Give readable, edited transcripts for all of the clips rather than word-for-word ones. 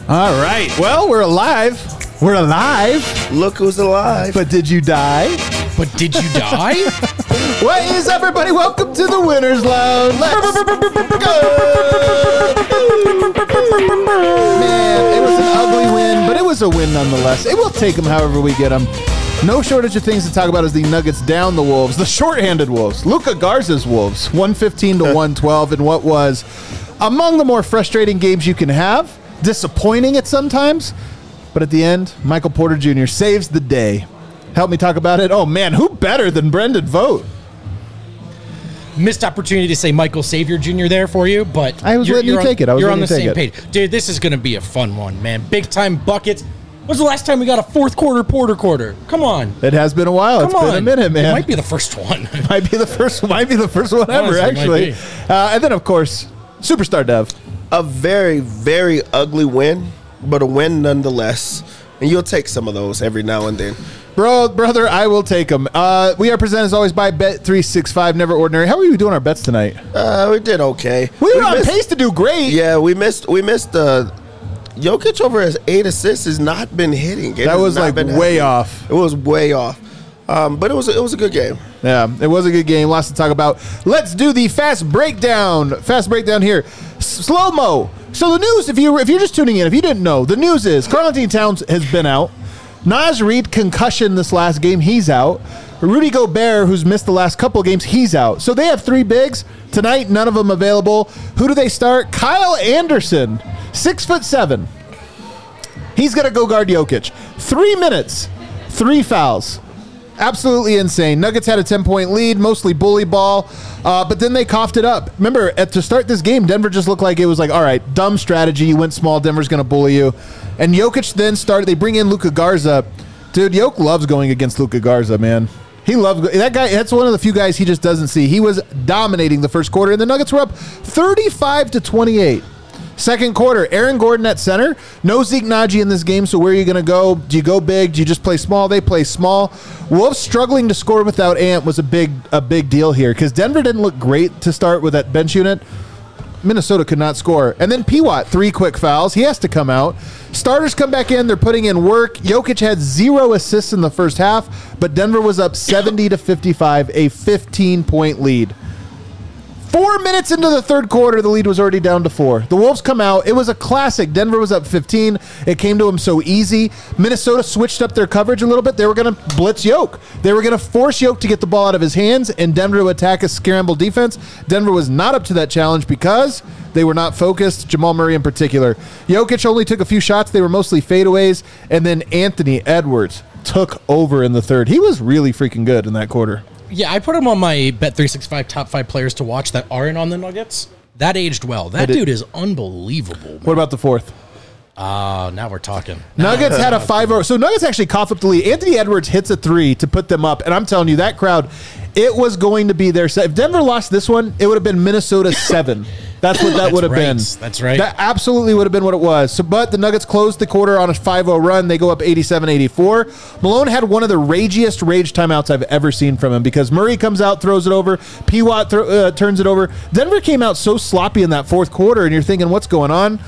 All right. Well, we're alive. We're alive. Look who's alive. But did you die? But did you die? What is everybody? Welcome to the Winners Lounge. Let's go. Man, it was an ugly win, but it was a win nonetheless. It will take them however we get them. No shortage of things to talk about as the Nuggets down the Wolves, the shorthanded Wolves, Luka Garza's Wolves, 115 to 112 in what was among the more frustrating games you can have. Disappointing at sometimes, but at the end, Michael Porter Jr. saves the day. Help me talk about it. Oh man, who better than Brendan Vogt? Missed opportunity to say Michael Savior Jr. there for you, but I was letting you take it. You're on the same page. Dude, this is going to be a fun one, man. Big time buckets. When's the last time we got a fourth quarter Porter quarter? Come on. It has been a while. It's been a minute, man. It might be the first one. Might be the first one ever, actually. And then, of course, Superstar Dev. A very, very ugly win, but a win nonetheless. And you'll take some of those every now and then. Brother, I will take them. We are presented as always by Bet365, Never Ordinary. How are you doing our bets tonight? We did okay. We were on pace to do great. Yeah, we missed Jokic over his 8 assists has not been hitting. That was like way off. It was way off. But it was a good game. Yeah, it was a good game. Lots to talk about. Let's do the fast breakdown. Fast breakdown here. Slow-mo. So the news, if you're just tuning in, if you didn't know, the news is Karl-Anthony Towns has been out. Naz Reid, concussion this last game, he's out. Rudy Gobert, who's missed the last couple of games, he's out. So they have 3 bigs. Tonight, none of them available. Who do they start? Kyle Anderson, 6'7". He's going to go guard Jokic. 3 minutes, 3 fouls. Absolutely insane. Nuggets had a 10-point lead, mostly bully ball, but then they coughed it up. Remember, to start this game, Denver just looked like it was like, all right, dumb strategy. You went small. Denver's going to bully you. And Jokic then started. They bring in Luka Garza. Dude, Jokic loves going against Luka Garza, man. He loves that guy. That's one of the few guys he just doesn't see. He was dominating the first quarter, and the Nuggets were up 35 to 28. Second quarter, Aaron Gordon at center. No Zeke Naji in this game, so where are you going to go? Do you go big? Do you just play small? They play small. Wolves struggling to score without Ant was a big deal here because Denver didn't look great to start with that bench unit. Minnesota could not score. And then P-Watt, 3 quick fouls. He has to come out. Starters come back in. They're putting in work. Jokic had 0 assists in the first half, but Denver was up 70 to 55, a 15-point lead. 4 minutes into the third quarter, the lead was already down to 4. The Wolves come out. It was a classic. Denver was up 15. It came to them so easy. Minnesota switched up their coverage a little bit. They were going to blitz Jokic. They were going to force Jokic to get the ball out of his hands and Denver to attack a scramble defense. Denver was not up to that challenge because they were not focused, Jamal Murray in particular. Jokic only took a few shots. They were mostly fadeaways. And then Anthony Edwards took over in the third. He was really freaking good in that quarter. Yeah, I put him on my Bet365 top 5 players to watch that aren't on the Nuggets. That aged well. That dude is unbelievable, man. What about the fourth? Now we're talking. Nuggets had a 5-0. So Nuggets actually coughed up the lead. Anthony Edwards hits a 3 to put them up. And I'm telling you, that crowd, it was going to be their set. If Denver lost this one, it would have been Minnesota 7. That's what that would have been. That's right. That absolutely would have been what it was. So, but the Nuggets closed the quarter on a 5-0 run. They go up 87-84. Malone had one of the ragiest rage timeouts I've ever seen from him because Murray comes out, throws it over. P-Watt turns it over. Denver came out so sloppy in that fourth quarter, and you're thinking, what's going on?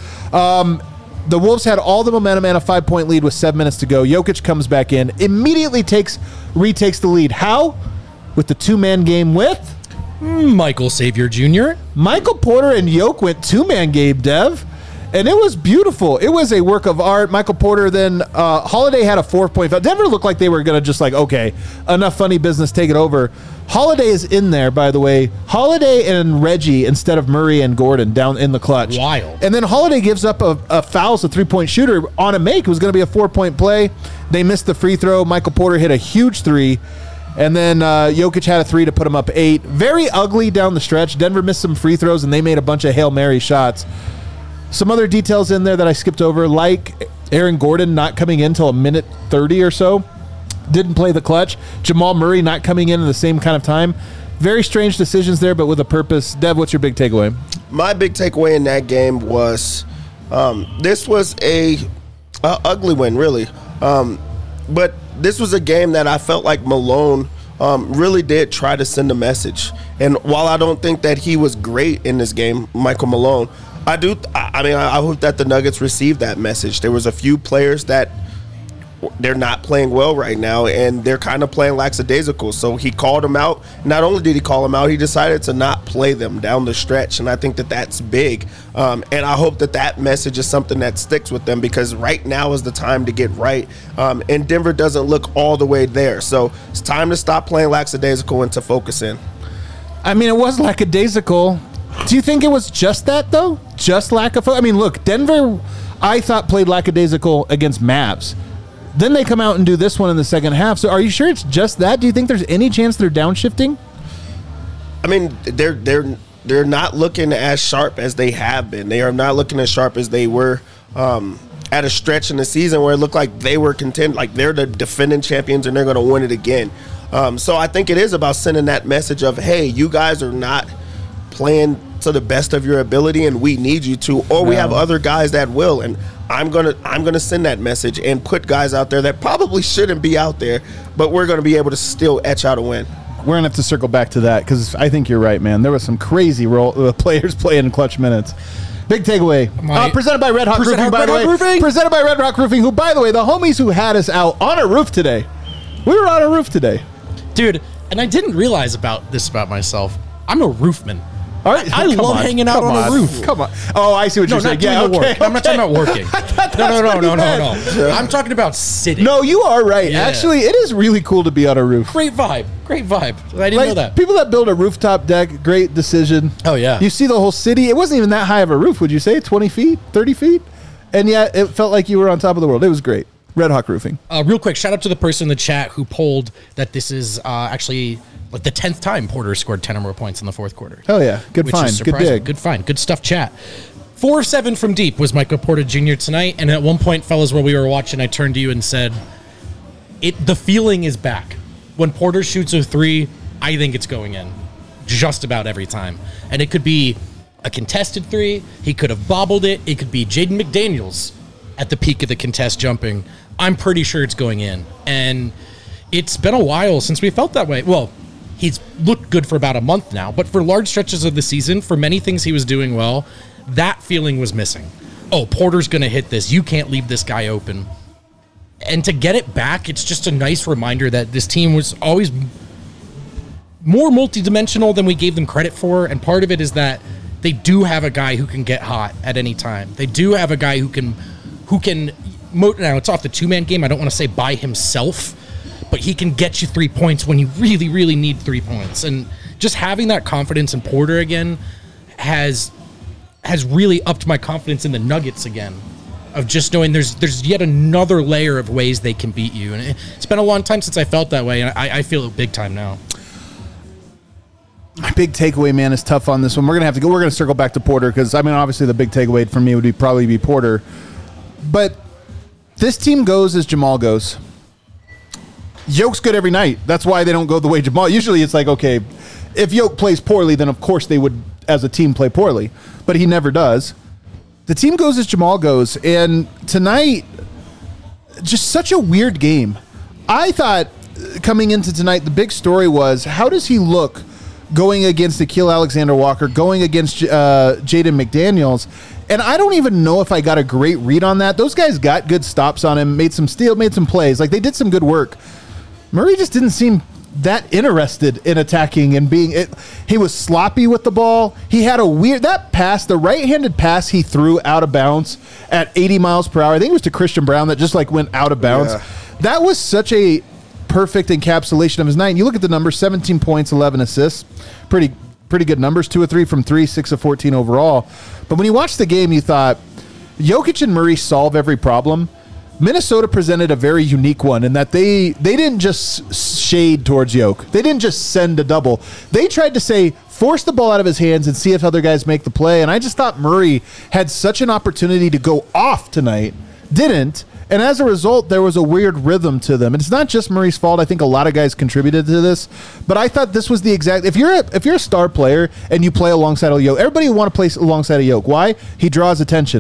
The Wolves had all the momentum and a 5-point lead with 7 minutes to go. Jokic comes back in, immediately retakes the lead. How? With the 2-man game with Michael Savior Jr. Michael Porter and Jokic went 2-man game, Dev, and it was beautiful. It was a work of art. Michael Porter then Holiday had a 4-point foul. Denver looked like they were going to just like, okay, enough funny business, take it over. Holiday is in there, by the way. Holiday and Reggie instead of Murray and Gordon down in the clutch. Wild. And then Holiday gives up a foul as a 3-point shooter on a make. It was going to be a 4-point play. They missed the free throw. Michael Porter hit a huge 3. And then Jokic had a 3 to put him up 8. Very ugly down the stretch. Denver missed some free throws, and they made a bunch of Hail Mary shots. Some other details in there that I skipped over, like Aaron Gordon not coming in until a minute 30 or so. Didn't play the clutch. Jamal Murray not coming in the same kind of time. Very strange decisions there, but with a purpose. Dev, what's your big takeaway? My big takeaway in that game was this was a ugly win, really. But this was a game that I felt like Malone really did try to send a message. And while I don't think that he was great in this game, Michael Malone, I do. I mean, I hope that the Nuggets receive that message. There was a few players that they're not playing well right now, and they're kind of playing lackadaisical. So he called them out. Not only did he call them out, he decided to not play them down the stretch, and I think that that's big. And I hope that that message is something that sticks with them, because right now is the time to get right. And Denver doesn't look all the way there. So it's time to stop playing lackadaisical and to focus in. I mean, it was lackadaisical. Do you think it was just that, though? Just lack of focus? I mean, look, Denver, I thought, played lackadaisical against Mavs. Then they come out and do this one in the second half. So are you sure it's just that? Do you think there's any chance they're downshifting? I mean, they're not looking as sharp as they have been. They are not looking as sharp as they were at a stretch in the season where it looked like they were content, like they're the defending champions and they're going to win it again. So I think it is about sending that message of, hey, you guys are not playing to the best of your ability and we need you to, or we have other guys that will. And I'm gonna send that message and put guys out there that probably shouldn't be out there, but we're gonna be able to still etch out a win. We're gonna have to circle back to that, because I think you're right, man. There was some crazy players playing in clutch minutes. Big takeaway. Presented by Red Hawk Roofing, by the way. Presented by Red Hawk Roofing, who, by the way, the homies who had us out on a roof today. We were on a roof today, dude. And I didn't realize about myself. I'm a roofman. All right, I love hanging out on a roof. Come on. Oh, I see what you're saying. Yeah, okay. I'm not talking about working. No. I'm talking about sitting. No, you are right. Yeah. Actually, it is really cool to be on a roof. Great vibe. I didn't know that. People that build a rooftop deck, great decision. Oh, yeah. You see the whole city. It wasn't even that high of a roof, would you say? 20 feet? 30 feet? And yet it felt like you were on top of the world. It was great. Red Hawk Roofing. Real quick, shout out to the person in the chat who polled that this is actually like the 10th time Porter scored 10 or more points in the fourth quarter. Oh, yeah. Good find. Good dig. Good find. Good stuff, chat. 4-7 from deep was Michael Porter Jr. tonight. And at one point, fellas, while we were watching, I turned to you and said, the feeling is back. When Porter shoots a three, I think it's going in just about every time. And it could be a contested three. He could have bobbled it. It could be Jaden McDaniels at the peak of the contest jumping. I'm pretty sure it's going in. And it's been a while since we felt that way. Well, he's looked good for about a month now, but for large stretches of the season, for many things he was doing well, that feeling was missing. Oh, Porter's going to hit this. You can't leave this guy open. And to get it back, it's just a nice reminder that this team was always more multidimensional than we gave them credit for. And part of it is that they do have a guy who can get hot at any time. They do have a guy who can now it's off the two-man game. I don't want to say by himself, but he can get you 3 points when you really, really need 3 points. And just having that confidence in Porter again has really upped my confidence in the Nuggets again, of just knowing there's yet another layer of ways they can beat you. And it's been a long time since I felt that way, and I feel it big time now. My big takeaway, man, is tough on this one. We're going to circle back to Porter, because, I mean, obviously the big takeaway for me would probably be Porter. But this team goes as Jamal goes. Yoke's good every night. That's why they don't go the way Jamal. Usually it's like, okay, if Yoke plays poorly, then of course they would, as a team, play poorly. But he never does. The team goes as Jamal goes. And tonight, just such a weird game. I thought coming into tonight, the big story was, how does he look going against Nickeil Alexander-Walker, going against Jaden McDaniels? And I don't even know if I got a great read on that. Those guys got good stops on him, made some steal, made some plays. Like, they did some good work. Murray just didn't seem that interested in attacking and being it. He was sloppy with the ball. He had that pass, the right-handed pass he threw out of bounds at 80 miles per hour. I think it was to Christian Brown that just like went out of bounds. Yeah. That was such a perfect encapsulation of his night. And you look at the numbers, 17 points, 11 assists. Pretty good numbers. 2 of 3 from 3, 6 of 14 overall. But when you watch the game, you thought Jokic and Murray solve every problem. Minnesota presented a very unique one in that they didn't just shade towards Yoke. They didn't just send a double. They tried to say, force the ball out of his hands and see if other guys make the play. And I just thought Murray had such an opportunity to go off tonight. Didn't. And as a result, there was a weird rhythm to them. And it's not just Murray's fault. I think a lot of guys contributed to this. But I thought this was the exact... If you're a star player and you play alongside a Yoke, everybody would want to play alongside a Yoke. Why? He draws attention.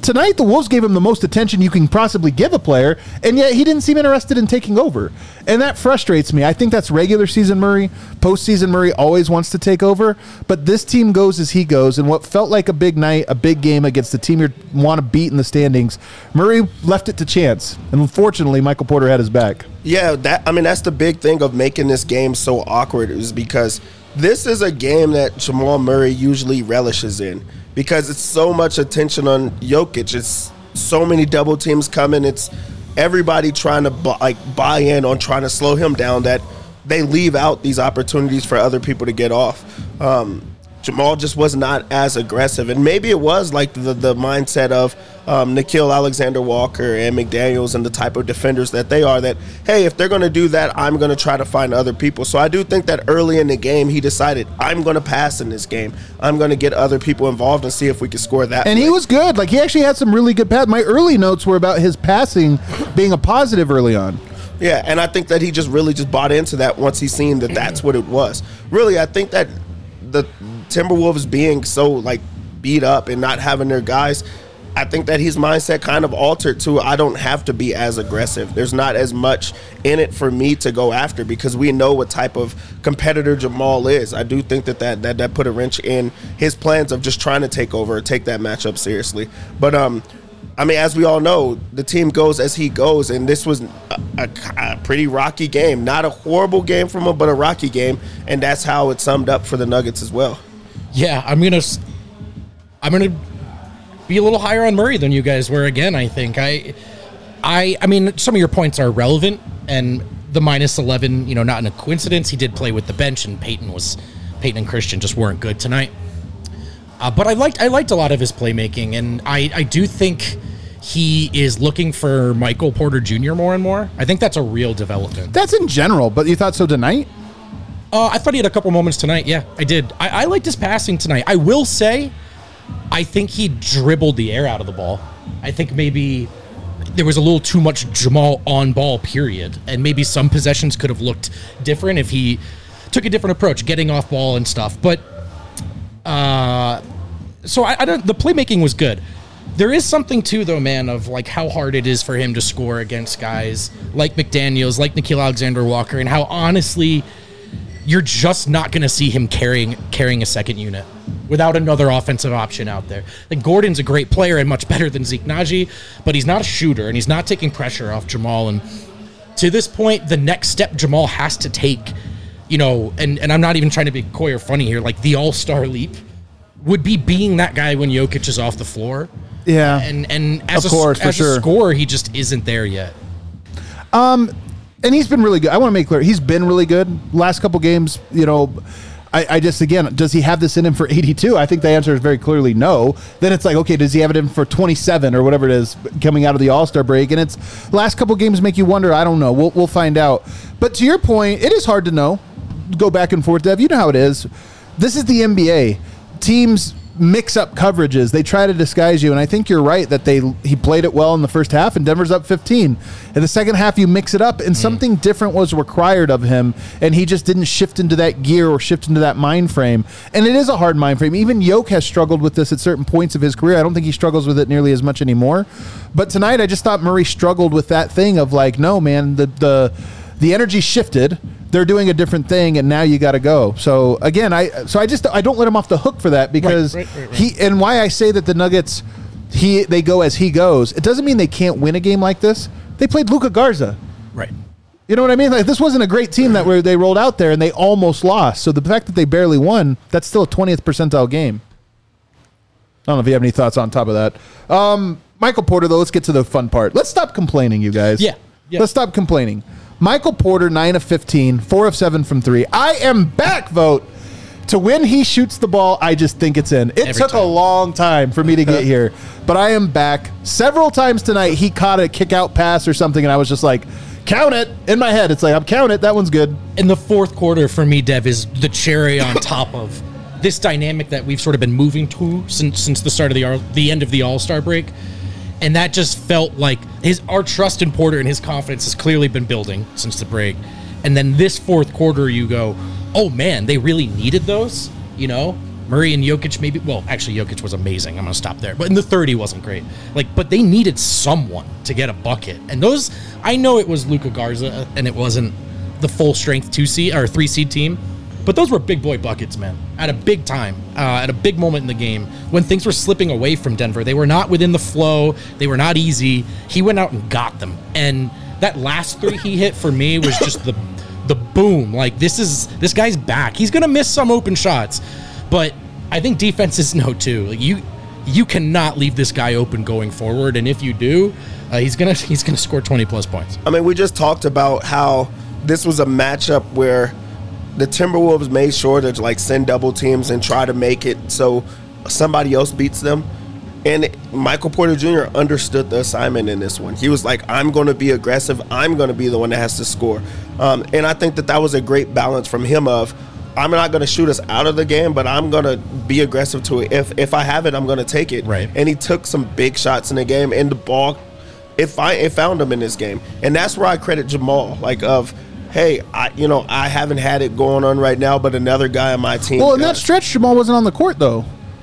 tonight the Wolves gave him the most attention you can possibly give a player, and yet he didn't seem interested in taking over. And that frustrates me. I think that's regular season Murray. Postseason Murray always wants to take over, but this team goes as he goes, and what felt like a big night, a big game against the team you want to beat in the standings, Murray left it to chance. And unfortunately, Michael Porter had his back. Yeah, that's the big thing of making this game so awkward, is because this is a game that Jamal Murray usually relishes in, because it's so much attention on Jokic. It's so many double teams coming. It's everybody trying to buy in on trying to slow him down, that they leave out these opportunities for other people to get off. Jamal just was not as aggressive, and maybe it was like the mindset of Nickeil Alexander-Walker and McDaniels and the type of defenders that they are, that, hey, if they're going to do that, I'm going to try to find other people. So I do think that early in the game he decided, I'm going to pass in this game. I'm going to get other people involved and see if we can score that. And he was good. Like, he actually had some really good passes. My early notes were about his passing being a positive early on. Yeah, and I think that he just really just bought into that once he seen that that's what it was. Really, I think that the Timberwolves being so beat up and not having their guys, I think that his mindset kind of altered to, I don't have to be as aggressive. There's not as much in it for me to go after, because we know what type of competitor Jamal is. I do think that put a wrench in his plans of just trying to take over or take that matchup seriously. But as we all know, the team goes as he goes, and this was a pretty rocky game. Not a horrible game from him, but a rocky game, and that's how it summed up for the Nuggets as well. Yeah, I'm gonna be a little higher on Murray than you guys were. Again, I think I mean, some of your points are relevant, and the -11, not in a coincidence. He did play with the bench, and Peyton and Christian just weren't good tonight. But I liked a lot of his playmaking, and I do think he is looking for Michael Porter Jr. more and more. I think that's a real development. That's in general, but you thought so tonight? I thought he had a couple moments tonight. Yeah, I did. I liked his passing tonight. I will say, I think he dribbled the air out of the ball. I think maybe there was a little too much Jamal on ball, period. And maybe some possessions could have looked different if he took a different approach, getting off ball and stuff. But so I don't. The playmaking was good. There is something too, though, man, of how hard it is for him to score against guys like McDaniels, like Nickeil Alexander-Walker, and how honestly, you're just not going to see him carrying a second unit without another offensive option out there. Gordon's a great player and much better than Zeke Naji, but he's not a shooter, and he's not taking pressure off Jamal. And to this point, the next step Jamal has to take, and I'm not even trying to be coy or funny here, the all-star leap would be being that guy when Jokic is off the floor. Yeah. And as a scorer, he just isn't there yet. And he's been really good. I want to make clear, he's been really good. Last couple games, I just, again, does he have this in him for 82? I think the answer is very clearly no. Then it's okay, does he have it in for 27 or whatever it is coming out of the All-Star break? And it's last couple games make you wonder. I don't know. We'll find out. But to your point, it is hard to know. Go back and forth, Dev. You know how it is. This is the NBA. Teams mix up coverages. They try to disguise you, and I think you're right that he played it well in the first half, and Denver's up 15. In the second half, you mix it up, and something different was required of him, and he just didn't shift into that gear or shift into that mind frame. And it is a hard mind frame. Even Yoke has struggled with this at certain points of his career. I don't think he struggles with it nearly as much anymore. But tonight, I just thought Murray struggled with that thing of no, man, the energy shifted. They're doing a different thing, and now you got to go. So again, I don't let him off the hook for that, because right. and why I say that the Nuggets, they go as he goes. It doesn't mean they can't win a game like this. They played Luka Garza, right? You know what I mean? This wasn't a great team that they rolled out there and they almost lost. So the fact that they barely won, that's still a 20th percentile game. I don't know if you have any thoughts on top of that. Michael Porter, though, let's get to the fun part. Let's stop complaining, you guys. Yeah. Let's stop complaining. Michael Porter, 9 of 15, 4 of 7 from 3. I am back, vote. To when he shoots the ball, I just think it's in. It took a long time for me to get here, but I am back. Several times tonight, he caught a kick-out pass or something, and I was just count it. In my head, it's I'm count it. That one's good. In the fourth quarter, for me, Dev, is the cherry on top of this dynamic that we've sort of been moving to since the start of the end of the All-Star break. And that just felt like our trust in Porter and his confidence has clearly been building since the break. And then this fourth quarter, you go, oh man, they really needed those, Murray and Jokic maybe. Well, actually, Jokic was amazing. I'm gonna stop there. But in the third, he wasn't great. But they needed someone to get a bucket. And those, I know it was Luka Garza, and it wasn't the full strength 2-seed or 3-seed team. But those were big boy buckets, man. At a big time, at a big moment in the game when things were slipping away from Denver. They were not within the flow. They were not easy. He went out and got them. And that last 3 he hit for me was just the boom. Like, this guy's back. He's gonna miss some open shots, but I think defenses know too. Like, you cannot leave this guy open going forward, and if you do, he's gonna score 20 plus points. I mean, we just talked about how this was a matchup where the Timberwolves made sure to like send double teams and try to make it so somebody else beats them. And Michael Porter Jr. understood the assignment in this one. He was like, I'm going to be aggressive. I'm going to be the one that has to score. And I think that was a great balance from him of, I'm not going to shoot us out of the game, but I'm going to be aggressive to it. If I have it, I'm going to take it. Right. And he took some big shots in the game, and the ball, it found him in this game. And that's where I credit Jamal, like of, hey, I haven't had it going on right now, but another guy on my team. Well, in that stretch, Jamal wasn't on the court, though.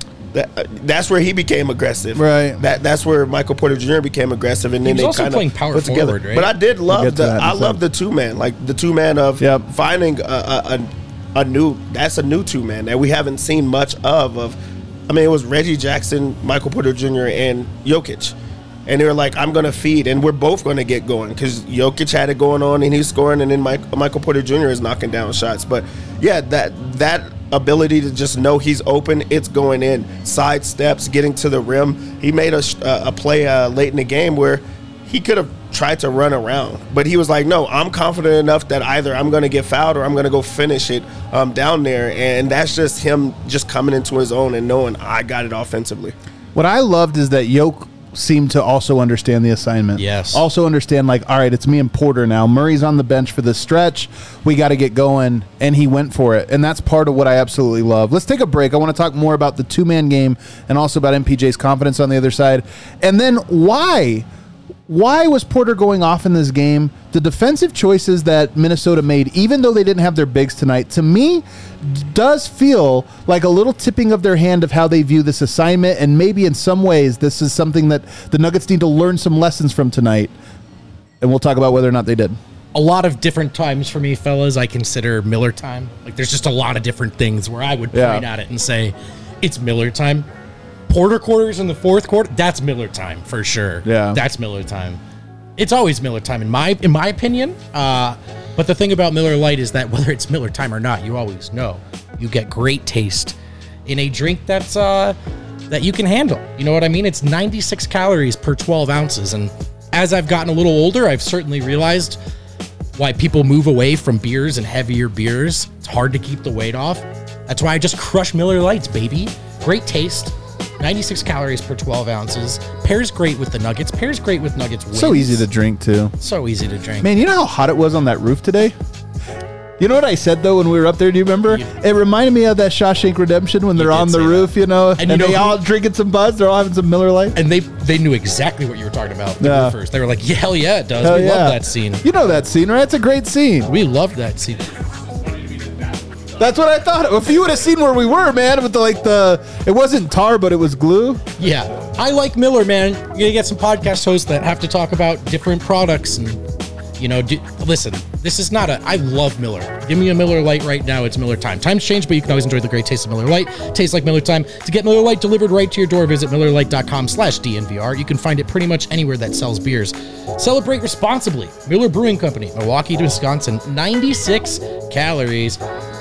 That's where he became aggressive. Right. That's where Michael Porter Jr. became aggressive, and then they kind of playing power put together. forward, right? But I did love the 2-man, like the 2-man of finding a new two-man that we haven't seen much of. I mean, it was Reggie Jackson, Michael Porter Jr., and Jokic. And they were like, I'm going to feed, and we're both going to get going because Jokic had it going on, and he's scoring, and then Michael Porter Jr. is knocking down shots. But, yeah, that ability to just know he's open, it's going in. Side steps, getting to the rim. He made a play late in the game where he could have tried to run around. But he was like, no, I'm confident enough that either I'm going to get fouled or I'm going to go finish it down there. And that's just him just coming into his own and knowing I got it offensively. What I loved is that Jokic seemed to also understand the assignment. Yes. Also understand, like, all right, it's me and Porter now. Murray's on the bench for this stretch. We got to get going. And he went for it. And that's part of what I absolutely love. Let's take a break. I want to talk more about the 2-man game and also about MPJ's confidence on the other side. And then why was Porter going off in this game? The defensive choices that Minnesota made, even though they didn't have their bigs tonight, to me, does feel like a little tipping of their hand of how they view this assignment, and maybe in some ways this is something that the Nuggets need to learn some lessons from tonight, and we'll talk about whether or not they did. A lot of different times for me, fellas, I consider Miller time. Like, there's just a lot of different things where I would point at it and say, it's Miller time. Porter quarters in the fourth quarter, that's Miller time for sure. Yeah. That's Miller time. It's always Miller time in my opinion. But the thing about Miller Lite is that whether it's Miller time or not, you always know you get great taste in a drink that's that you can handle. You know what I mean? It's 96 calories per 12 ounces. And as I've gotten a little older, I've certainly realized why people move away from beers and heavier beers. It's hard to keep the weight off. That's why I just crush Miller Lights, baby. Great taste. 96 calories per 12 ounces. Pairs great with the Nuggets. Pairs great with Nuggets wins. So easy to drink, too. So easy to drink. Man, you know how hot it was on that roof today? You know what I said, though, when we were up there? Do you remember? Yeah. It reminded me of that Shawshank Redemption when they're on the roof, you know, and they all drinking some Buzz. They're all having some Miller Lite. And they knew exactly what you were talking about. The roofers. They were like, yeah, hell yeah, it does. Hell We yeah. love that scene. You know that scene, right? It's a great scene. We loved that scene. That's what I thought. If you would have seen where we were, man, with it wasn't tar, but it was glue. Yeah. I like Miller, man. You're going to get some podcast hosts that have to talk about different products and, you know, listen, this is not I love Miller. Give me a Miller Lite right now. It's Miller time. Times change, but you can always enjoy the great taste of Miller Lite. Tastes like Miller time. To get Miller Lite delivered right to your door, visit MillerLite.com/DNVR. You can find it pretty much anywhere that sells beers. Celebrate responsibly. Miller Brewing Company, Milwaukee, Wisconsin. 96 calories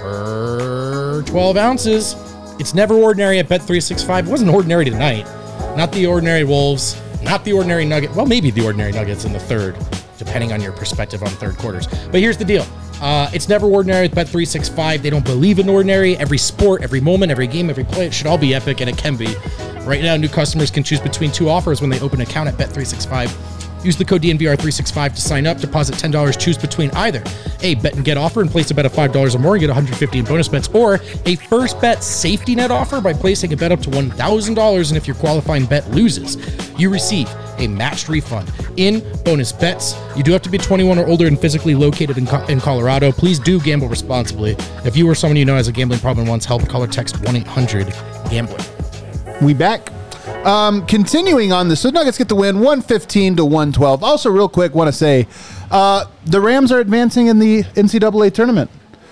per 12 ounces. It's never ordinary at Bet365. It wasn't ordinary tonight. Not the ordinary Wolves. Not the ordinary Nuggets. Well, maybe the ordinary Nuggets in the third, depending on your perspective on third quarters. But here's the deal. It's never ordinary with Bet365. They don't believe in ordinary. Every sport, every moment, every game, every play, it should all be epic, and it can be. Right now, new customers can choose between two offers when they open an account at Bet365. Use the code DNVR365 to sign up. Deposit $10. Choose between either a bet and get offer and place a bet of $5 or more and get $150 in bonus bets, or a first bet safety net offer by placing a bet up to $1,000. And if your qualifying bet loses, you receive a matched refund in bonus bets. You do have to be 21 or older and physically located in Colorado. Please do gamble responsibly. If you or someone you know has a gambling problem and wants help, call or text 1-800-GAMBLER. We back. Continuing on this, so Nuggets get the win, 115-112. Also, real quick, want to say the Rams are advancing in the NCAA tournament.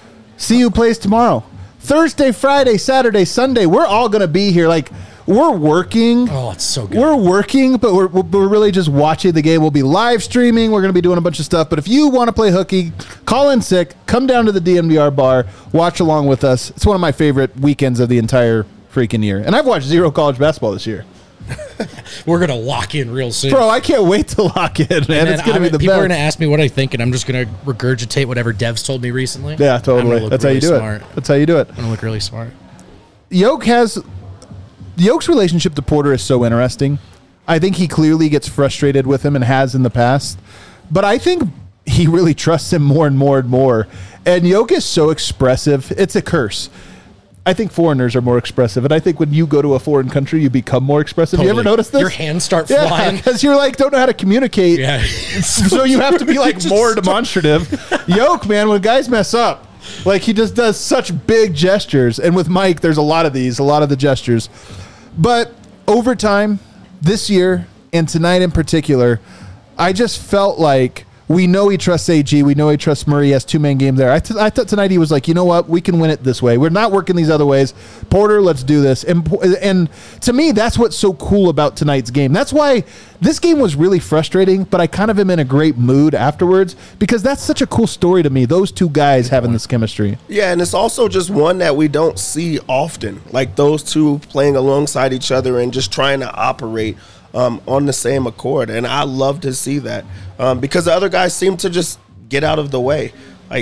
CU plays tomorrow. Thursday, Friday, Saturday, Sunday. We're all going to be here. Like, we're working. Oh, it's so good. We're working, but we're really just watching the game. We'll be live streaming. We're going to be doing a bunch of stuff. But if you want to play hooky, call in sick, come down to the DMVR bar, watch along with us. It's one of my favorite weekends of the entire freaking year. And I've watched zero college basketball this year. We're going to lock in real soon. Bro, I can't wait to lock in, man. It's going to be the people best. are going to ask me what I think, and I'm just going to regurgitate whatever Dev's told me recently. Yeah, totally. That's how you do it. That's how you do it. I'm going to look really smart. Yoke's relationship to Porter is so interesting. I think he clearly gets frustrated with him and has in the past. But I think he really trusts him more and more and more. And Yoke is so expressive. It's a curse. I think foreigners are more expressive, and I think when you go to a foreign country, you become more expressive. Totally. You ever notice this? Your hands start flying. Because you're like, don't know how to communicate. Yeah. So you have to be like more demonstrative. Yoke, man, when guys mess up, like he just does such big gestures. And with Mike, there's a lot of the gestures. But over time, this year, and tonight in particular, I just felt like we know he trusts AG. We know he trusts Murray. He has two-man game there. I thought tonight he was like, you know what? We can win it this way. We're not working these other ways. Porter, let's do this. And to me, that's what's so cool about tonight's game. That's why this game was really frustrating, but I kind of am in a great mood afterwards because that's such a cool story to me, those two guys having this chemistry. Yeah, and it's also just one that we don't see often, like those two playing alongside each other and just trying to operate on the same accord. And I love to see that because the other guys seem to just get out of the way.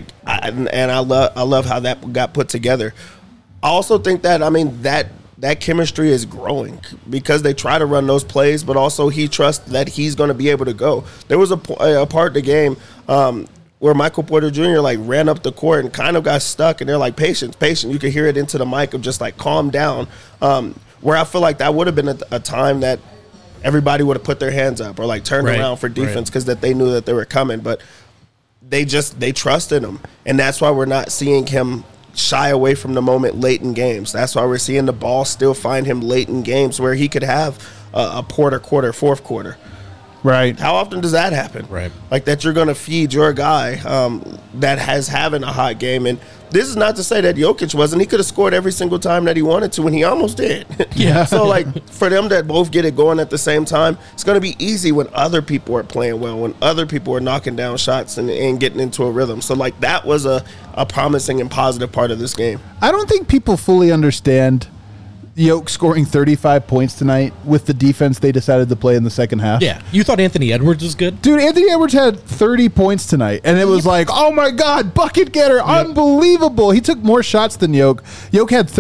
I love how that got put together. I also think that, that chemistry is growing because they try to run those plays, but also he trusts that he's going to be able to go. There was a part of the game where Michael Porter Jr. ran up the court and kind of got stuck, and they're like, patience. You could hear it into the mic of just calm down, where I feel like that would have been a time that everybody would have put their hands up or turned around for defense because that they knew that they were coming, but they trusted him, and that's why we're not seeing him shy away from the moment late in games. That's why we're seeing the ball still find him late in games where he could have a Porter quarter, fourth quarter. Right. How often does that happen? Right. Like that you're going to feed your guy that has having a hot game. And this is not to say that Jokic wasn't. He could have scored every single time that he wanted to, and he almost did. Yeah. So, for them that both get it going at the same time, it's going to be easy when other people are playing well, when other people are knocking down shots and getting into a rhythm. So, that was a promising and positive part of this game. I don't think people fully understand Yoke scoring 35 points tonight with the defense they decided to play in the second half. Yeah. You thought Anthony Edwards was good? Dude, Anthony Edwards had 30 points tonight, and it was like, oh my God, bucket getter, unbelievable. He took more shots than Yoke. Yoke had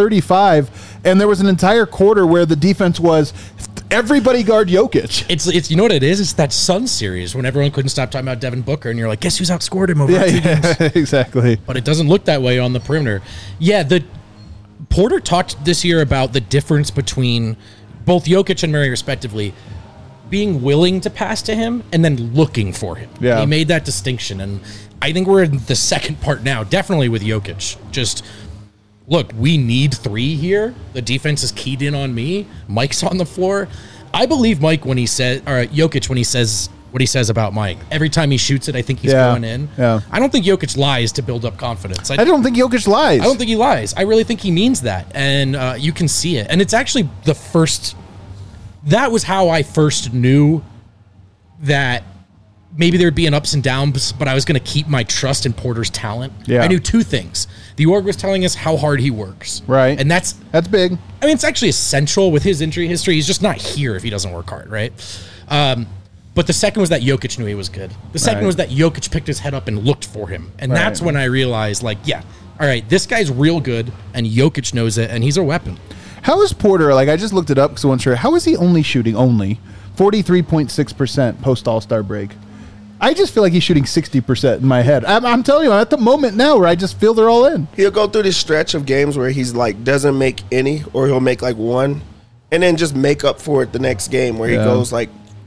35, and there was an entire quarter where the defense was everybody guard Jokic. It's you know what it is? It's that Sun series when everyone couldn't stop talking about Devin Booker, and you're like, guess who's outscored him over 2 games? Exactly. But it doesn't look that way on the perimeter. Yeah, Porter talked this year about the difference between both Jokic and Murray, respectively, being willing to pass to him and then looking for him. Yeah. He made that distinction, and I think we're in the second part now, definitely with Jokic. Just, look, we need three here. The defense is keyed in on me. Mike's on the floor. I believe Mike when he says, or Jokic when he says what he says about Mike. Every time he shoots it, I think he's going in. Yeah. I don't think Jokic lies to build up confidence. I don't think Jokic lies. I don't think he lies. I really think he means that. And you can see it. And it's actually that was how I first knew that maybe there'd be an ups and downs, but I was going to keep my trust in Porter's talent. Yeah. I knew two things. The org was telling us how hard he works. Right. And that's big. I mean, it's actually essential with his injury history. He's just not here if he doesn't work hard, right? But the second was that Jokic knew he was good. The second was that Jokic picked his head up and looked for him. And that's when I realized, all right, this guy's real good, and Jokic knows it, and he's a weapon. How is Porter, I just looked it up because I wasn't sure, how is he only shooting 43.6% post All-Star break? I just feel like he's shooting 60% in my head. I'm telling you, I'm at the moment now where I just feel they're all in. He'll go through this stretch of games where he's doesn't make any, or he'll make one, and then just make up for it the next game where he goes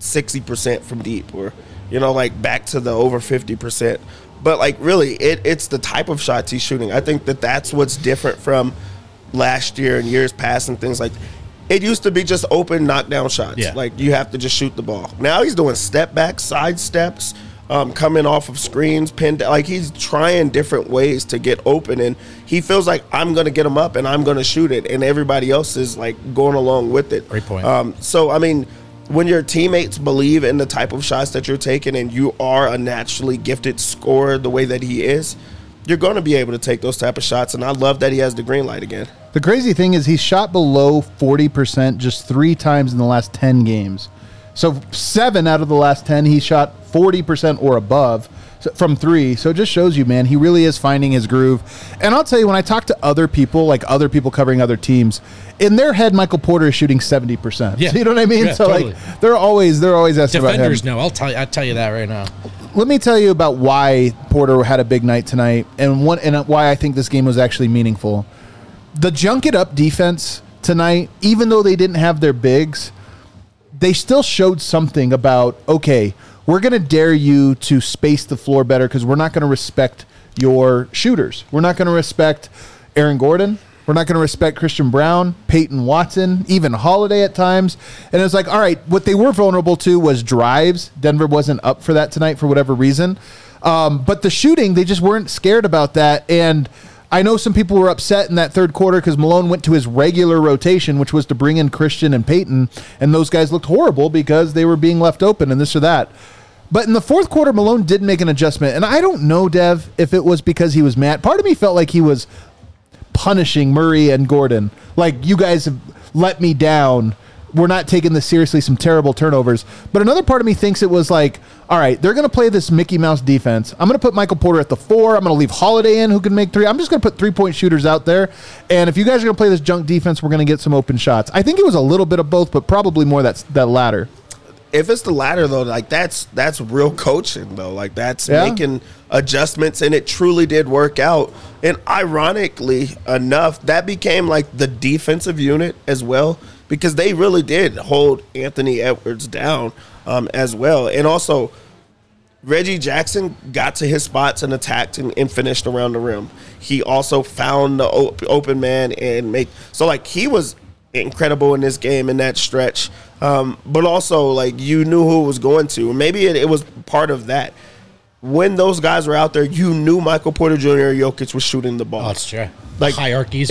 60% from deep, or, like back to the over 50%. But like really, it's the type of shots he's shooting. I think that's what's different from last year and years past and things like that. It used to be just open knockdown shots. Yeah. Like you have to just shoot the ball. Now he's doing step back, side steps, coming off of screens, pinned. Like he's trying different ways to get open, and he feels like I'm going to get him up and I'm going to shoot it, and everybody else is like going along with it. Great point. So I mean, when your teammates believe in the type of shots that you're taking, and you are a naturally gifted scorer the way that he is, you're going to be able to take those type of shots. And I love that he has the green light again. The crazy thing is he's shot below 40% just 3 times in the last 10 games. So 7 out of the last 10, he shot 40% or above from 3. So it just shows you, man, he really is finding his groove. And I'll tell you, when I talk to other people, like other people covering other teams, in their head, Michael Porter is shooting 70%. Yeah. So you know what I mean? Yeah, So totally. like they're always asking about him. Defenders know. I'll tell you that right now. Let me tell you about why Porter had a big night tonight, and why I think this game was actually meaningful. The junk it up defense tonight, even though they didn't have their bigs, they still showed something about, okay, we're going to dare you to space the floor better because we're not going to respect your shooters. We're not going to respect Aaron Gordon. We're not going to respect Christian Brown, Peyton Watson, even Holiday at times. And it's like, all right, what they were vulnerable to was drives. Denver wasn't up for that tonight for whatever reason. But the shooting, they just weren't scared about that. And I know some people were upset in that third quarter because Malone went to his regular rotation, which was to bring in Christian and Peyton. And those guys looked horrible because they were being left open and this or that. But in the fourth quarter, Malone did make an adjustment. And I don't know, Dev, if it was because he was mad. Part of me felt like he was punishing Murray and Gordon. Like, you guys have let me down. We're not taking this seriously, some terrible turnovers. But another part of me thinks it was like, all right, they're going to play this Mickey Mouse defense. I'm going to put Michael Porter at the 4. I'm going to leave Holiday in who can make 3. I'm just going to put 3-point shooters out there. And if you guys are going to play this junk defense, we're going to get some open shots. I think it was a little bit of both, but probably more that latter. If it's the latter, though, like that's real coaching, though. Like that's making adjustments, and it truly did work out. And ironically enough, that became like the defensive unit as well, because they really did hold Anthony Edwards down as well. And also, Reggie Jackson got to his spots and attacked and finished around the rim. He also found the open man and he was incredible in this game in that stretch. But also, like, you knew who it was going to. Maybe it was part of that. When those guys were out there, you knew Michael Porter Jr. or Jokic was shooting the ball. Oh, that's true. Like Hierarchies.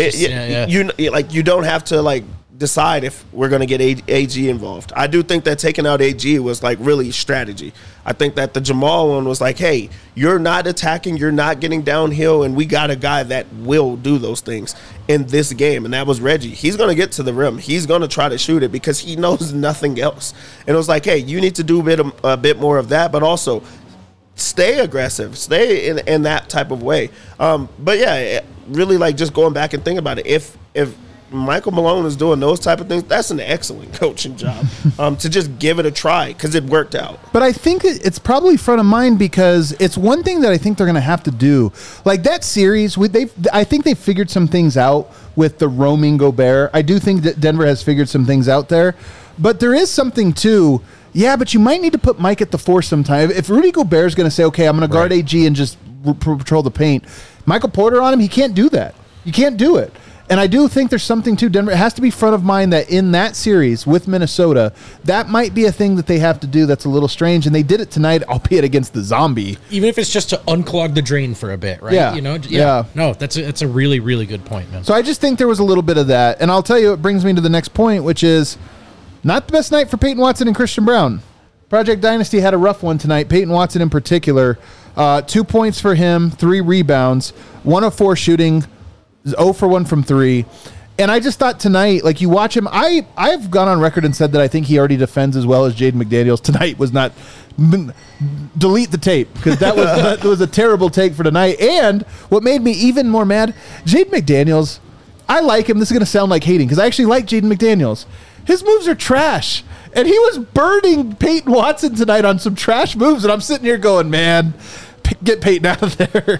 You don't have to like decide if we're going to get AG involved. I do think that taking out AG was like really strategy. I think that the Jamal one was like, hey, you're not attacking, you're not getting downhill, and we got a guy that will do those things in this game, and that was Reggie. He's going to get to the rim. He's going to try to shoot it because he knows nothing else. And it was like, hey, you need to do a bit more of that, but also stay aggressive, stay in that type of way. But yeah, really, like, just going back and thinking about it, if Michael Malone is doing those type of things, that's an excellent coaching job to just give it a try because it worked out. But I think it's probably front of mind because it's one thing that I think they're going to have to do. Like that series, I think they figured some things out with the roaming Gobert. I do think that Denver has figured some things out there. But there is something too. Yeah, but you might need to put Mike at the 4 sometime. If Rudy Gobert is going to say, okay, I'm going to guard AG and just patrol the paint, Michael Porter on him, he can't do that. You can't do it. And I do think there's something to Denver. It has to be front of mind that in that series with Minnesota, that might be a thing that they have to do that's a little strange. And they did it tonight, albeit against the zombie. Even if it's just to unclog the drain for a bit, right? Yeah. You know? Yeah. No, that's a really, really good point, man. So I just think there was a little bit of that. And I'll tell you, it brings me to the next point, which is not the best night for Peyton Watson and Christian Brown. Project Dynasty had a rough one tonight. Peyton Watson in particular, 2 points for him, 3 rebounds, 1 of 4 shooting, 0 for 1 from 3. And I just thought tonight, like you watch him, I've gone on record and said that I think he already defends as well as Jaden McDaniels. Tonight was not, delete the tape because that was a terrible take for tonight. And what made me even more mad, Jaden McDaniels, I like him. This is going to sound like hating because I actually like Jaden McDaniels. His moves are trash. And he was burning Peyton Watson tonight on some trash moves. And I'm sitting here going, man, get Peyton out of there.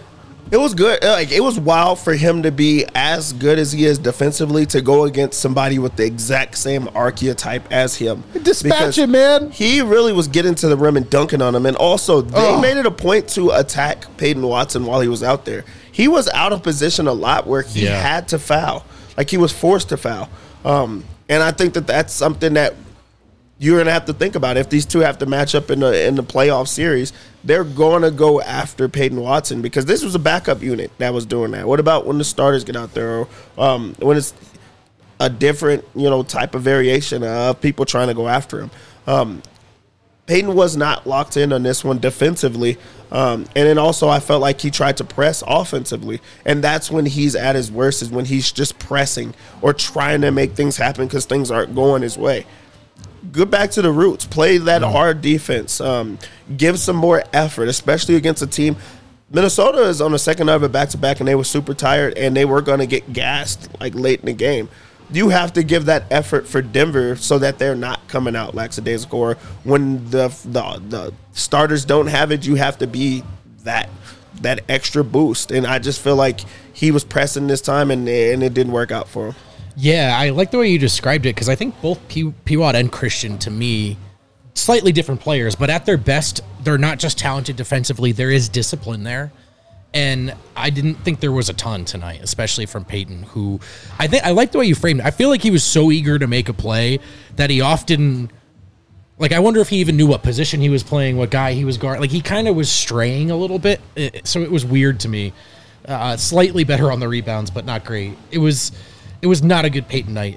It was good. Like, it was wild for him to be as good as he is defensively to go against somebody with the exact same archetype as him. Dispatch it, man. He really was getting to the rim and dunking on him. And also, they made it a point to attack Peyton Watson while he was out there. He was out of position a lot where he had to foul. Like, he was forced to foul. And I think that that's something that you're going to have to think about. If these two have to match up in the playoff series, they're going to go after Peyton Watson because this was a backup unit that was doing that. What about when the starters get out there, or when it's a different, type of variation of people trying to go after him? Peyton was not locked in on this one defensively. And then also I felt like he tried to press offensively. And that's when he's at his worst, is when he's just pressing or trying to make things happen because things aren't going his way. Get back to the roots. Play that hard defense. Give some more effort, especially against a team. Minnesota is on the second of it back-to-back, and they were super tired, and they were going to get gassed like late in the game. You have to give that effort for Denver so that they're not coming out lackadaisical. Or when the starters don't have it, you have to be that extra boost. And I just feel like he was pressing this time, and it didn't work out for him. Yeah, I like the way you described it because I think both Piwot and Christian, to me, slightly different players, but at their best, they're not just talented defensively. There is discipline there. And I didn't think there was a ton tonight, especially from Peyton, who I like the way you framed it. I feel like he was so eager to make a play that he often, like, I wonder if he even knew what position he was playing, what guy he was guarding. Like, he kind of was straying a little bit, so it was weird to me. Slightly better on the rebounds, but not great. It was not a good Peyton night.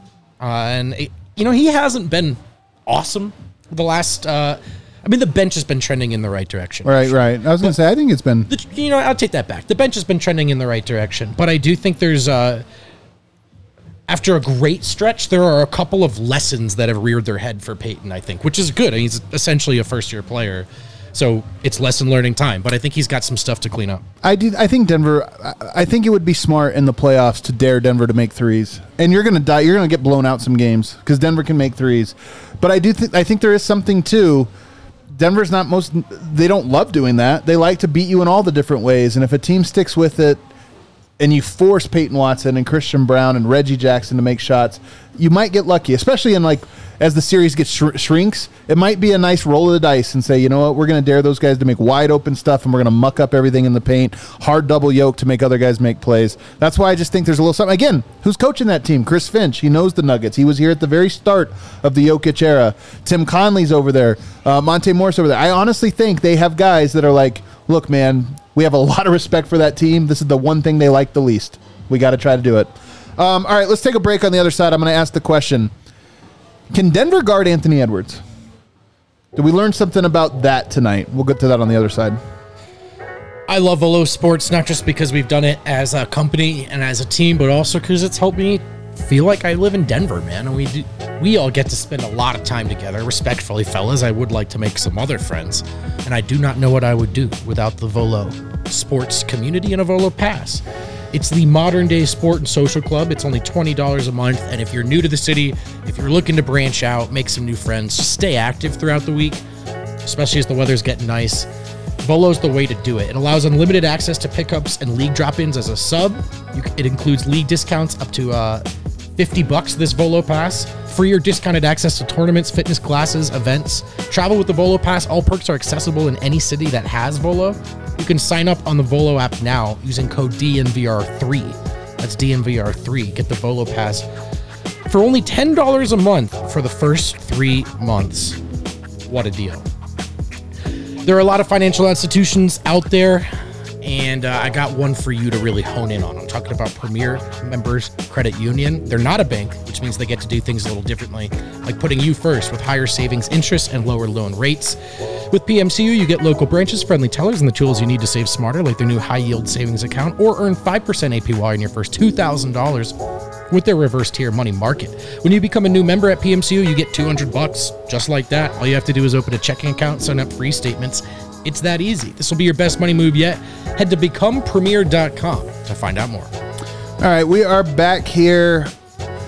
He hasn't been awesome the last the bench has been trending in the right direction. Right. I was going to say, I think it's been... I'll take that back. The bench has been trending in the right direction. But I do think there's... after a great stretch, there are a couple of lessons that have reared their head for Peyton, I think, which is good. I mean, he's essentially a first-year player. So it's lesson learning time. But I think he's got some stuff to clean up. I think Denver... I think it would be smart in the playoffs to dare Denver to make threes. And you're going to die. You're going to get blown out some games because Denver can make threes. But I think there is something, too... Denver's they don't love doing that. They like to beat you in all the different ways. And if a team sticks with it and you force Peyton Watson and Christian Brown and Reggie Jackson to make shots, you might get lucky, especially in as the series gets shrinks. It might be a nice roll of the dice and say, you know what, we're going to dare those guys to make wide open stuff and we're going to muck up everything in the paint, hard double yoke to make other guys make plays. That's why I just think there's a little something. Again, who's coaching that team? Chris Finch. He knows the Nuggets. He was here at the very start of the Jokic era. Tim Conley's over there. Monte Morris over there. I honestly think they have guys that are like, look, man, we have a lot of respect for that team. This is the one thing they like the least. We got to try to do it. All right, let's take a break on the other side. I'm going to ask the question, can Denver guard Anthony Edwards? Did we learn something about that tonight? We'll get to that on the other side. I love Volo Sports, not just because we've done it as a company and as a team, but also because it's helped me feel like I live in Denver, man. And we all get to spend a lot of time together. Respectfully, fellas, I would like to make some other friends. And I do not know what I would do without the Volo Sports community and a Volo Pass. It's the modern day sport and social club. It's only $20 a month. And if you're new to the city, if you're looking to branch out, make some new friends, stay active throughout the week, especially as the weather's getting nice, Volo's the way to do it. It allows unlimited access to pickups and league drop-ins as a sub. It includes league discounts up to $50 this Volo Pass. Free or discounted access to tournaments, fitness classes, events. Travel with the Volo Pass. All perks are accessible in any city that has Volo. You can sign up on the Volo app now using code DNVR3. That's DNVR3. Get the Volo Pass for only $10 a month for the first 3 months. What a deal. There are a lot of financial institutions out there, and I got one for you to really hone in on. I'm talking about Premier Members Credit Union. They're not a bank, which means they get to do things a little differently, like putting you first with higher savings interest and lower loan rates. With PMCU, you get local branches, friendly tellers, and the tools you need to save smarter, like their new high-yield savings account, or earn 5% APY on your first $2,000 with their reverse tier money market. When you become a new member at PMCU, you get $200 just like that. All you have to do is open a checking account, sign up free statements. It's that easy. This will be your best money move yet. Head to becomepremier.com to find out more. All right, we are back here.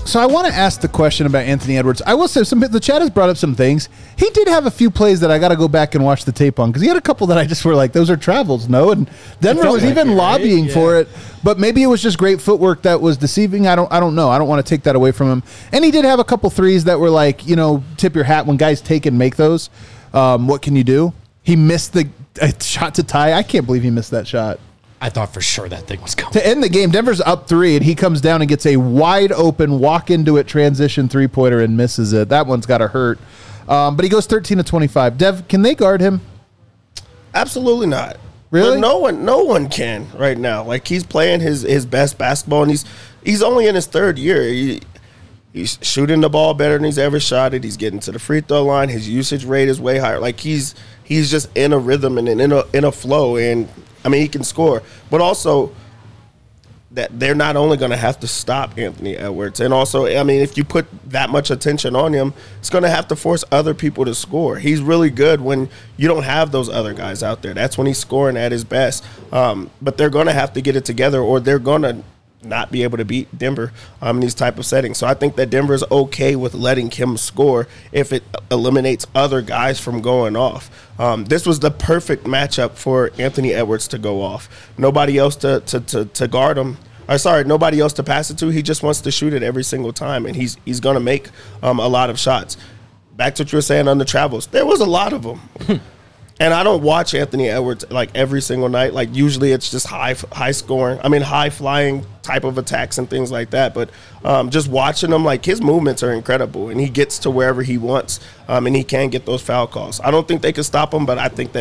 So I want to ask the question about Anthony Edwards. I will say the chat has brought up some things. He did have a few plays that I got to go back and watch the tape on because he had a couple that I just were like, those are travels, no? And Denver was even lobbying for it, but maybe it was just great footwork that was deceiving. I don't know. I don't want to take that away from him. And he did have a couple threes that were like, tip your hat when guys take and make those. What can you do? He missed the shot to tie. I can't believe he missed that shot. I thought for sure that thing was going. To end the game, Denver's up 3, and he comes down and gets a wide open, walk into it, transition three-pointer and misses it. That one's got to hurt. But he goes 13 of 25. Dev, can they guard him? Absolutely not. Really? But no one can right now. Like, he's playing his best basketball, and he's only in his third year. He's shooting the ball better than he's ever shot it. He's getting to the free throw line. His usage rate is way higher. Like, he's just in a rhythm and in a flow, and I mean, he can score, but also that they're not only going to have to stop Anthony Edwards, and also, I mean, if you put that much attention on him, it's going to have to force other people to score. He's really good when you don't have those other guys out there. That's when he's scoring at his best. But they're going to have to get it together, or they're going to not be able to beat Denver in these type of settings. So I think that Denver is okay with letting him score if it eliminates other guys from going off. This was the perfect matchup for Anthony Edwards to go off. Nobody else to guard him. Nobody else to pass it to. He just wants to shoot it every single time, and he's going to make a lot of shots. Back to what you were saying on the travels. There was a lot of them. And I don't watch Anthony Edwards like every single night. Like, usually it's just high flying type of attacks and things like that. But just watching him, like, his movements are incredible, and he gets to wherever he wants, and he can get those foul calls. I don't think they can stop him, but I think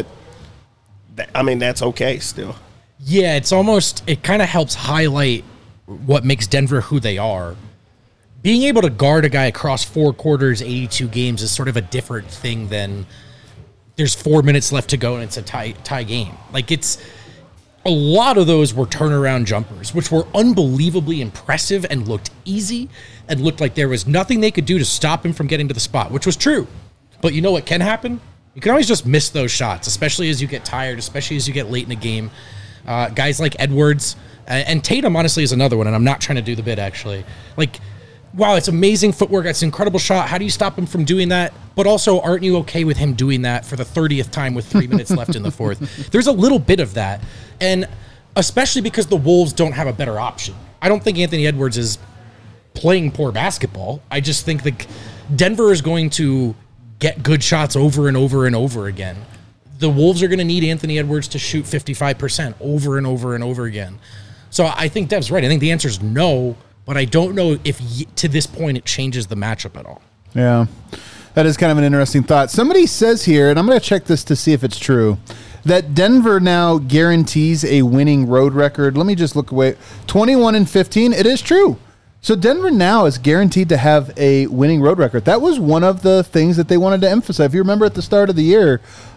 that's okay still. Yeah, it kind of helps highlight what makes Denver who they are. Being able to guard a guy across 4 quarters, 82 games is sort of a different thing than there's 4 minutes left to go and it's a tie game. Like, it's a lot of those were turnaround jumpers, which were unbelievably impressive and looked easy and looked like there was nothing they could do to stop him from getting to the spot, which was true. But you know what can happen? You can always just miss those shots, especially as you get tired, especially as you get late in a game. Guys like Edwards and Tatum, honestly, is another one, and I'm not trying to do the bit, actually. Like, wow, it's amazing footwork. It's an incredible shot. How do you stop him from doing that? But also, aren't you okay with him doing that for the 30th time with 3 minutes left in the fourth? There's a little bit of that. And especially because the Wolves don't have a better option. I don't think Anthony Edwards is playing poor basketball. I just think that Denver is going to get good shots over and over and over again. The Wolves are going to need Anthony Edwards to shoot 55% over and over and over again. So I think Dev's right. I think the answer is no. But I don't know if to this point it changes the matchup at all. Yeah, that is kind of an interesting thought. Somebody says here, and I'm going to check this to see if it's true, that Denver now guarantees a winning road record. Let me just look away. 21-15. It is true. So Denver now is guaranteed to have a winning road record. That was one of the things that they wanted to emphasize. If you remember at the start of the year,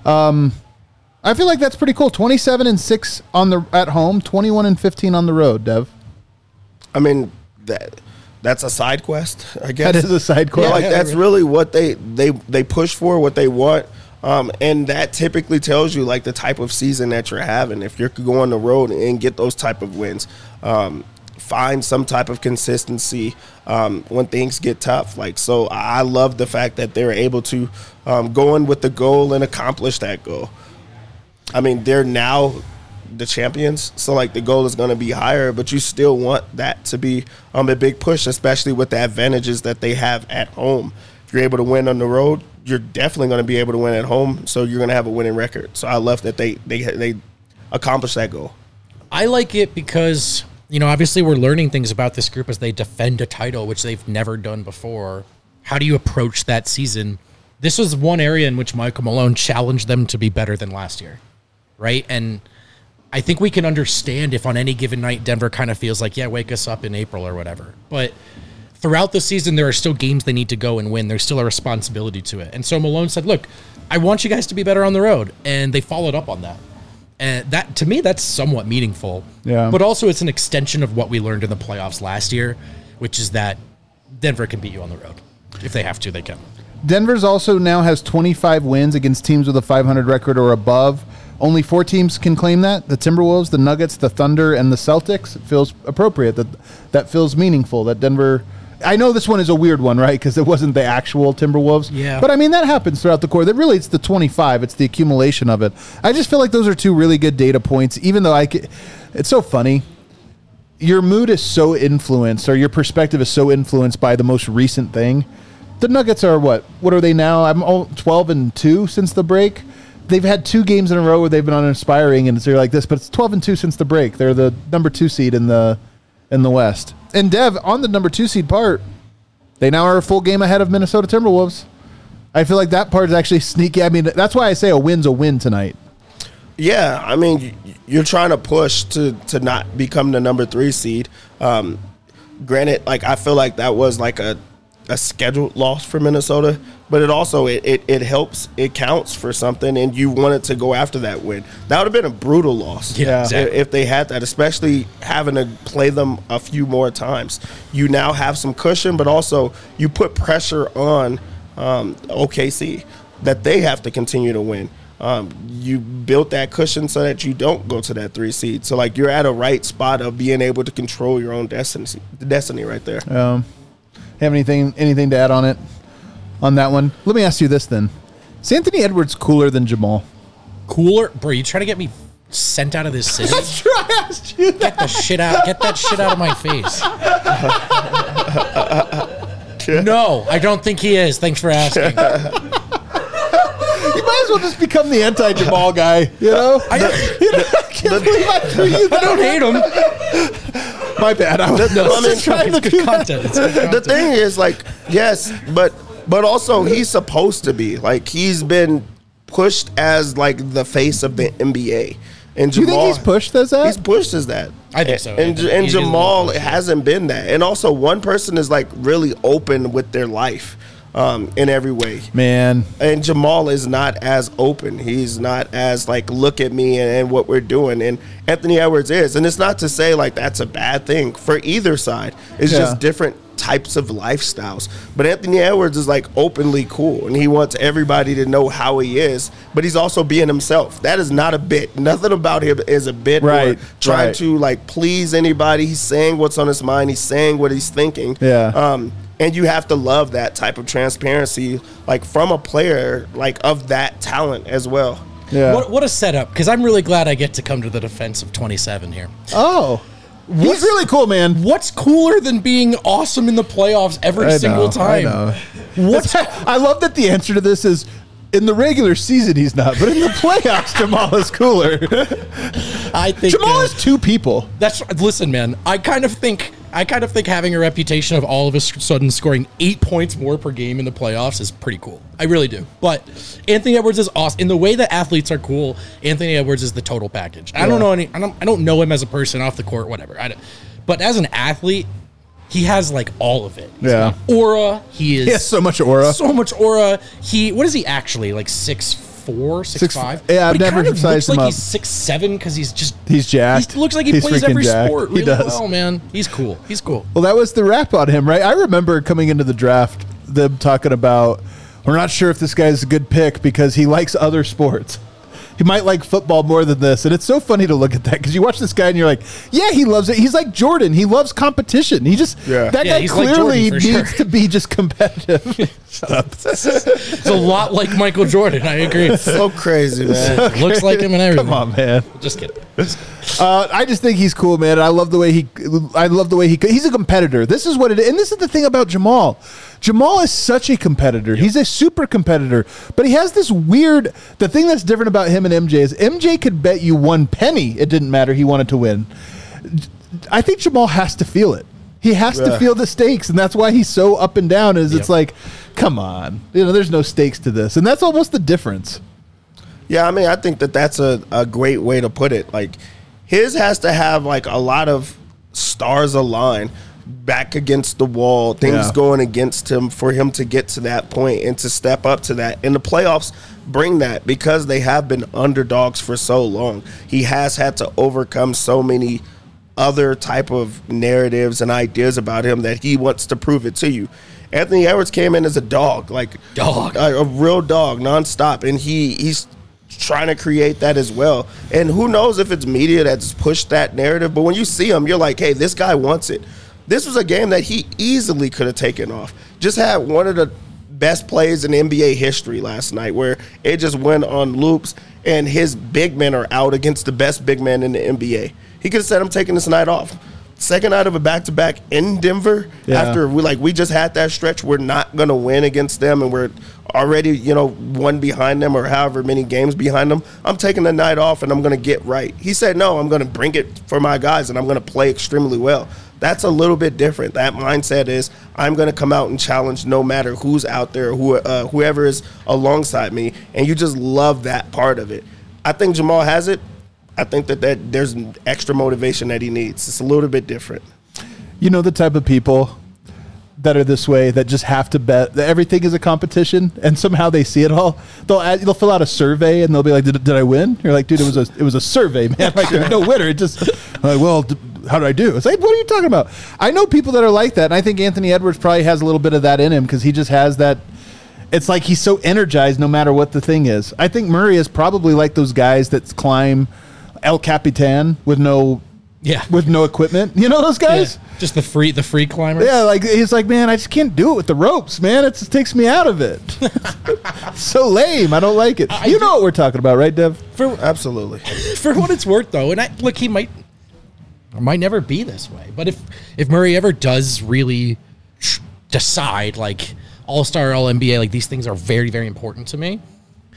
I feel like that's pretty cool. 27-6 at home, 21-15 on the road. Dev. I mean, that's a side quest, I guess. That is a side quest. Yeah, that's really what they push for, what they want. And that typically tells you, like, the type of season that you're having. If you could go on the road and get those type of wins, find some type of consistency when things get tough. Like, so I love the fact that they're able to go in with the goal and accomplish that goal. I mean, they're now the champions, so like the goal is going to be higher, but you still want that to be a big push, especially with the advantages that they have at home. If you're able to win on the road, you're definitely going to be able to win at home, so you're going to have a winning record. So I love that they accomplish that goal. I like it because, obviously we're learning things about this group as they defend a title, which they've never done before. How do you approach that season? This was one area in which Michael Malone challenged them to be better than last year, right? And I think we can understand if on any given night Denver kind of feels like, yeah, wake us up in April or whatever. But throughout the season, there are still games they need to go and win. There's still a responsibility to it. And so Malone said, look, I want you guys to be better on the road. And they followed up on that. And that, to me, that's somewhat meaningful. Yeah. But also it's an extension of what we learned in the playoffs last year, which is that Denver can beat you on the road. If they have to, they can. Denver's also now has 25 wins against teams with a 500 record or above. Only 4 teams can claim that: the Timberwolves, the Nuggets, the Thunder, and the Celtics. It feels appropriate. That feels meaningful. That Denver, I know this one is a weird one, right? Because it wasn't the actual Timberwolves. Yeah. But I mean, that happens throughout the course. It's the 25. It's the accumulation of it. I just feel like those are two really good data points, even though it's so funny. Your mood is so influenced, or your perspective is so influenced by the most recent thing. The Nuggets are what? What are they now? I'm 12-2 since the break. They've had 2 games in a row where they've been uninspiring, and they're like this, but it's 12-2 since the break. They're the number 2 seed in the West. And Dev, on the number 2 seed part, they now are a full game ahead of Minnesota Timberwolves. I feel like that part is actually sneaky. I mean, that's why I say a win's a win tonight. Yeah, I mean, you're trying to push to not become the number 3 seed. Granted, like, I feel like that was like a scheduled loss for Minnesota, but it also it helps, it counts for something, and you wanted to go after that win. That would have been a brutal loss, exactly. if they had that, especially having to play them a few more times. You now have some cushion, but also you put pressure on OKC that they have to continue to win. You built that cushion so that you don't go to that 3 seed. So, like, you're at a right spot of being able to control your own destiny right there. Have anything to add on that one? Let me ask you this then: is Anthony Edwards cooler than Jamal? Cooler, bro? You trying to get me sent out of this city? That's true. I asked you that. Get the shit out! Get that shit out of my face. No, I don't think he is. Thanks for asking. You might as well just become the anti-Jamal guy. You know? I can't believe I threw you that. I don't hate him. My bad. I was trying to It's do good content. It's good The content. thing is, like, yes, but also he's supposed to be. Like, he's been pushed as, like, the face of the NBA. And Do you Jamal, think he's pushed as that? He's pushed as that. I think so. And He's Jamal pushed. hasn't been that. And also, one person is, like, really open with their life in every way. Man. And Jamal is not as open. He's not as, like, look at me and what we're doing. And Anthony Edwards is. And it's not to say, like, that's a bad thing for either side. It's just different types of lifestyles. But Anthony Edwards is, like, openly cool. And he wants everybody to know how he is. But he's also being himself. That is not a bit. Nothing about him is a bit or trying to, like, please anybody. He's saying what's on his mind. He's saying what he's thinking. Yeah. And you have to love that type of transparency, like, from a player, like, of that talent as well. Yeah. What a setup, because I'm really glad I get to come to the defense of 27 here. Oh. He's really cool, man. What's cooler than being awesome in the playoffs every single time? I know. What's I love that the answer to this is, in the regular season he's not, but in the playoffs Jamal is cooler. I think Jamal is 2 people. Listen, man. I kind of think having a reputation of all of a sudden scoring 8 points more per game in the playoffs is pretty cool. I really do. But Anthony Edwards is awesome. In the way that athletes are cool, Anthony Edwards is the total package. I don't know him as a person off the court, whatever. But as an athlete, he has, like, all of it. He's got aura. He He has so much aura. So much aura. What is he actually, like, 6'4", 6'5"? Yeah, I've But he never kind of sized looks him like up. he's 6'7" because he's jacked. He looks like he He's plays freaking every jacked. sport He really does. well, man. He's cool. He's cool. Well, that was the rap on him, right? I remember coming into the draft, them talking about, we're not sure if this guy's a good pick because he likes other sports. He might like football more than this. And it's so funny to look at that because you watch this guy and you're like, yeah, he loves it. He's like Jordan. He loves competition. That guy he's like clearly Jordan for needs sure. to be just competitive. Shut up. It's a lot like Michael Jordan. I agree. So crazy, man. Looks like him and everything. Come on, man. Just kidding. I just think he's cool, man. I love the way he's a competitor. This is what it is. And this is the thing about Jamal. Jamal is such a competitor. Yep. He's a super competitor, but he has this weird, the thing that's different about him and MJ is MJ could bet you 1 penny it didn't matter. He wanted to win. I think Jamal has to feel it. He has to feel the stakes, and that's why he's so up and down. It's like, come on, there's no stakes to this, and that's almost the difference. Yeah, I mean, I think that's a great way to put it. Like, his has to have, like, a lot of stars align, back against the wall, things going against him for him to get to that point and to step up to that. And the playoffs bring that because they have been underdogs for so long. He has had to overcome so many other type of narratives and ideas about him that he wants to prove it to you. Anthony Edwards came in as a dog, like a real dog, nonstop, and he's trying to create that as well. And who knows if it's media that's pushed that narrative, but when you see him, you're like, hey, this guy wants it. This was a game that he easily could have taken off. Just had one of the best plays in NBA history last night where it just went on loops and his big men are out against the best big men in the NBA. He could have said, I'm taking this night off. Second night of a back-to-back in Denver after we just had that stretch. We're not going to win against them and we're already, one behind them or however many games behind them. I'm taking the night off and I'm going to get right. He said, no, I'm going to bring it for my guys and I'm going to play extremely well. That's a little bit different. That mindset is I'm going to come out and challenge no matter who's out there, whoever is alongside me, and you just love that part of it. I think Jamal has it. I think that there's extra motivation that he needs. It's a little bit different. You know the type of people that are this way that just have to bet that everything is a competition, and somehow they see it all. They'll fill out a survey and they'll be like, "Did I win?" You're like, "Dude, it was a survey, man. Like there's no winner. It just like, well, how did I do?" It's like, what are you talking about? I know people that are like that, and I think Anthony Edwards probably has a little bit of that in him because he just has that. It's like he's so energized no matter what the thing is. I think Murray is probably like those guys that climb El Capitan with no equipment. You know those guys? Yeah, just the free climbers. Yeah, like he's like, man, I just can't do it with the ropes, man. It just takes me out of it. So lame. I don't like it. You know what we're talking about, right, Dev? Absolutely. For what it's worth, though, and he might never be this way. But if Murray ever does really decide, like All-Star, All-NBA, like these things are very, very important to me.